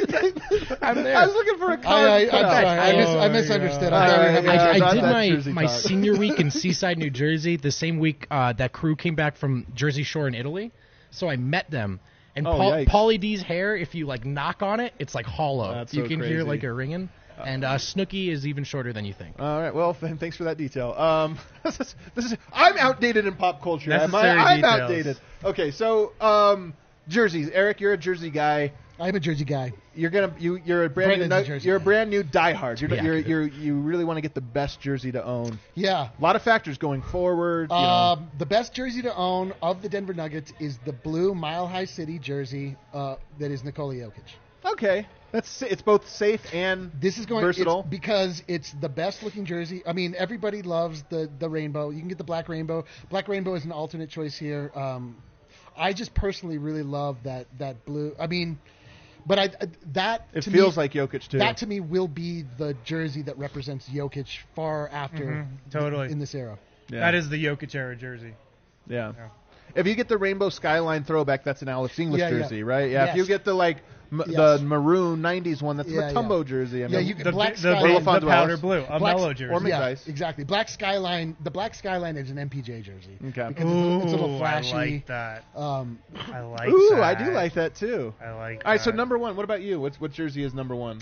I'm there. I was looking for a card. I, I, I'm cut out. sorry. I, mis- Oh, I my misunderstood. God. I thought we were Uh, having yeah, I, not I did that my, Jersey my talk. senior week in Seaside, New Jersey, the same week uh, that crew came back from Jersey Shore in Italy. So I met them. And Oh, Paul, yikes. Pauly D's hair, if you like knock on it, it's like hollow. That's you so can crazy. hear like a ringing. And uh, Snooki is even shorter than you think. All right. Well, th- thanks for that detail. Um, this is, this is I'm outdated in pop culture. Am I? Necessary I'm details. outdated. Okay, so um, jerseys. Eric, you're a Jersey guy. I'm a Jersey guy. You're gonna you you're a brand Brandon's new a nu- Jersey you're a guy. brand new diehard. You're Yeah. you're, you're you really want to get the best jersey to own. Yeah. A lot of factors going forward. You know. Um, the best jersey to own of the Denver Nuggets is the blue Mile High City jersey uh, that is Nikola Jokic. Okay, that's it's both safe and This is going versatile. it's because it's the best looking jersey. I mean, everybody loves the the rainbow. You can get the black rainbow. Black rainbow is an alternate choice here. Um, I just personally really love that that blue. I mean, but I that It to feels me, like Jokic too. that to me will be the jersey that represents Jokic far after Mhm, totally. in this era. yeah. That is the Jokic era jersey. yeah. Yeah. If you get the rainbow skyline throwback, that's an Alex English Yeah, yeah. jersey, right? Yeah. If you Yes. get the like m- Yes. the maroon nineties one, that's Yeah, the Mutombo yeah. jersey. I Yeah, mean, you The, Black the, Skyline. the, Lafonso the powder Wallace. blue, a Black- mellow or jersey. Yeah, McDice. exactly. Black Skyline. The Black Skyline is an M P J jersey. Okay. Because it's, it's a little Ooh, flashy. I like that. Um, I like Ooh, that. I do like that too. I like All right, so that. number one. What about you? What's what jersey is number one?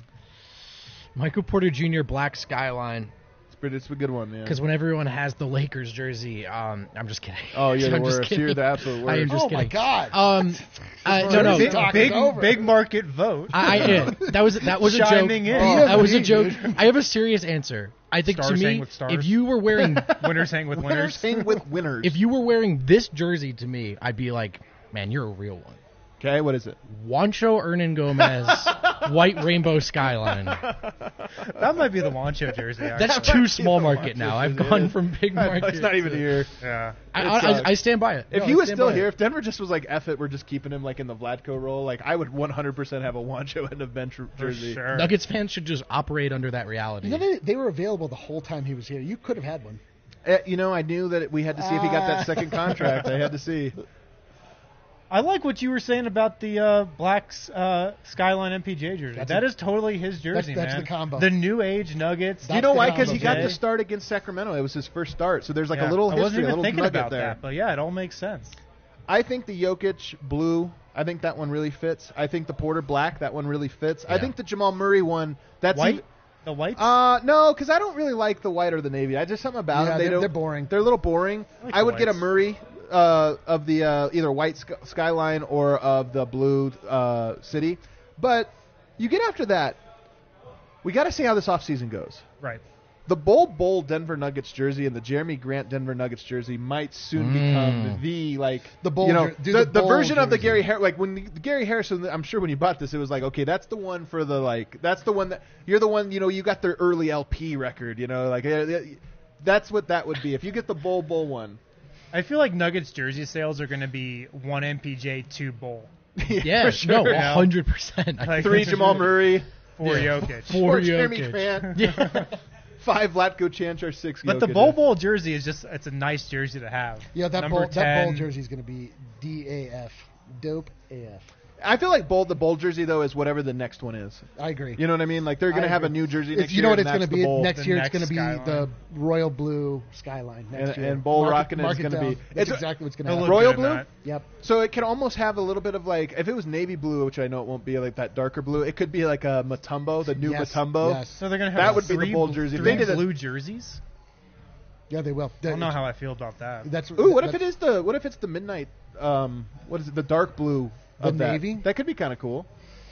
Michael Porter Junior Black Skyline. It's, pretty, it's a good one, yeah. Because when everyone has the Lakers jersey, um, I'm just kidding. Oh, you're the I'm just worst. kidding. You're the absolute I am worst. just oh kidding. my God. Um, uh, no, no. Jersey big, talk big, is over. big market vote. I, I yeah, that was that was a joke. Chiming in. Oh, that was a Yeah, joke. dude. I have a serious answer. I think Stars to hang me, with stars. if you were wearing Winners hang with Winners winners. hang with winners. if you were wearing this jersey to me, I'd be like, man, you're a real one. okay, what is it? Juancho Hernan Gomez, white rainbow skyline. That might be the Wancho jersey. Actually. That's too small market now. I've jersey, gone yeah. from big market. It's not even to- here. yeah. I, It I, sucks. I, I stand by it. If No, he I was stand still by here, it. if Denver just was like, F it, we're just keeping him like in the Vladko role, like I would one hundred percent have a Wancho end of bench For jersey. sure. Nuggets fans should just operate under that reality. You know, they, they were available the whole time he was here. You could have had one. Uh, you know, I knew that we had to see if he got that Ah. second contract. I had to see. I like what you were saying about the uh, black uh, Skyline M P J jersey. That's That a- is totally his jersey, that's man. the combo. The new age Nuggets. Do you know the why? Because he combo, got Jay. the start against Sacramento. It was his first start, so there's like Yeah, a little I history, wasn't a even little thinking nugget about there. that, but yeah, it all makes sense. I think the Jokic blue, I think that one really fits. I think the Porter black, that one really fits. I Yeah. think the Jamal Murray one, that's White? even- The white? uh, no, because I don't really like the white or the navy. I just something about Yeah, them. They they're- don't, they're boring. They're a little boring. I like I the would get a whites. Murray uh, of the uh, either white sky- skyline or of the blue uh, city. But you get after that, we got to see how this offseason goes. right. The Bull Bowl Denver Nuggets jersey and the Jeremy Grant Denver Nuggets jersey might soon become the like The Bull you know jer- do the, the the Bull version of the jersey. Gary Har- like when the, Gary Harrison. I'm sure when you bought this, it was like, okay, that's the one for the like that's the one that you're the one you know you got their early L P record, you know, like uh, that's what that would be if you get the Bull Bowl one. I feel like Nuggets jersey sales are going to be one M P J, two Bull. Yeah, for sure. no, one hundred percent. Like- Three Jamal Murray, For Yeah. Jokic. Four four Jeremy Jokic. Grant, Yeah. five Vlatko Chanchar, six. But the Jokic. Bull Bowl jersey is just, it's a nice jersey to have. Yeah, that Number bowl, that bowl ten. jersey is going to be D A F. Dope A F. I feel like bowl the bowl jersey though is whatever the next one is. I agree. You know what I mean? Like they're gonna I have a agree. new jersey It's- next you year. know what and it's going to that's be the bowl. next The year? It's next going to be Skyline. the royal blue skyline next And- year. and Bull Mark it- Rockin' is mark it gonna down. be- That's it's- exactly what's going to They'll happen. look Royal good in blue? that. Yep. So it can almost have a little bit of like if it was navy blue, which I know it won't be like that darker blue. It could be like a Matumbo, the new Yes, Matumbo. yes. So they're going to have That would be the three bowl bl- jersey. If three they did a- blue jerseys? Yeah, they will. I don't know how I feel about that. That's Ooh, what if that's- it is the what if it's the midnight? Um, what is it? The dark blue The of that. navy? That could be kind of cool.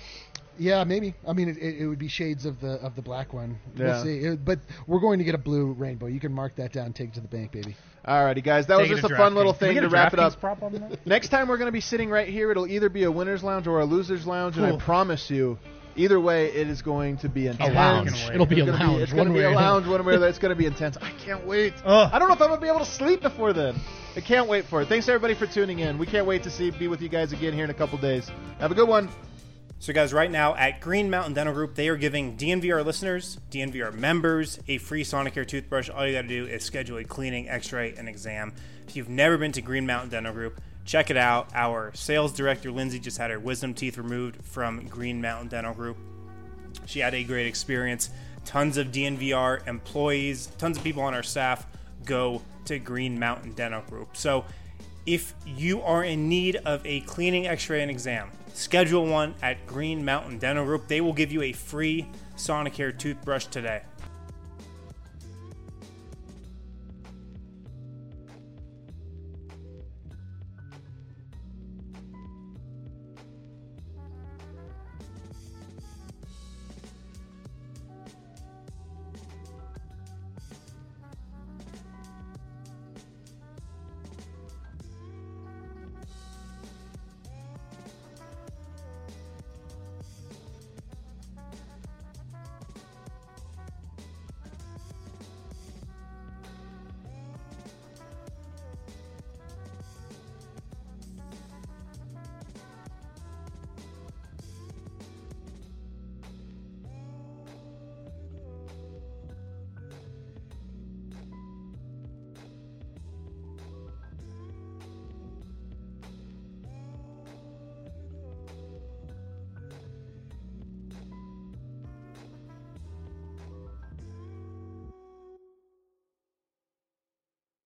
Yeah, maybe. I mean, it, it, it would be shades of the of the black one. Yeah. We'll see. It- but we're going to get a blue rainbow. You can mark that down. Take it to the bank, baby. Alrighty, guys, that was Take it just to a fun DraftKings. little Can we thing get to a wrap it DraftKings up. prop on that? Next time we're going to be sitting right here. It'll either be a winner's lounge or a loser's lounge, and I Cool. promise you, either way, it is going to be intense. A lounge. wait. It'll be a It's gonna lounge. Be, it's going to one be way a or another. lounge, one way or the other. It's going to be intense. I can't wait. Ugh. I don't know if I'm going to be able to sleep before then. I can't wait for it. Thanks everybody for tuning in. We can't wait to see be with you guys again here in a couple days. Have a good one. So, guys, right now at Green Mountain Dental Group, they are giving D N V R listeners, D N V R members, a free Sonicare toothbrush. All you got to do is schedule a cleaning, x-ray, and exam. If you've never been to Green Mountain Dental Group, check it out. Our sales director, Lindsay, just had her wisdom teeth removed from Green Mountain Dental Group. She had a great experience. Tons of D N V R employees, tons of people on our staff go to Green Mountain Dental Group. So if you are in need of a cleaning, x-ray, and exam, schedule one at Green Mountain Dental Group. They will give you a free Sonicare toothbrush today.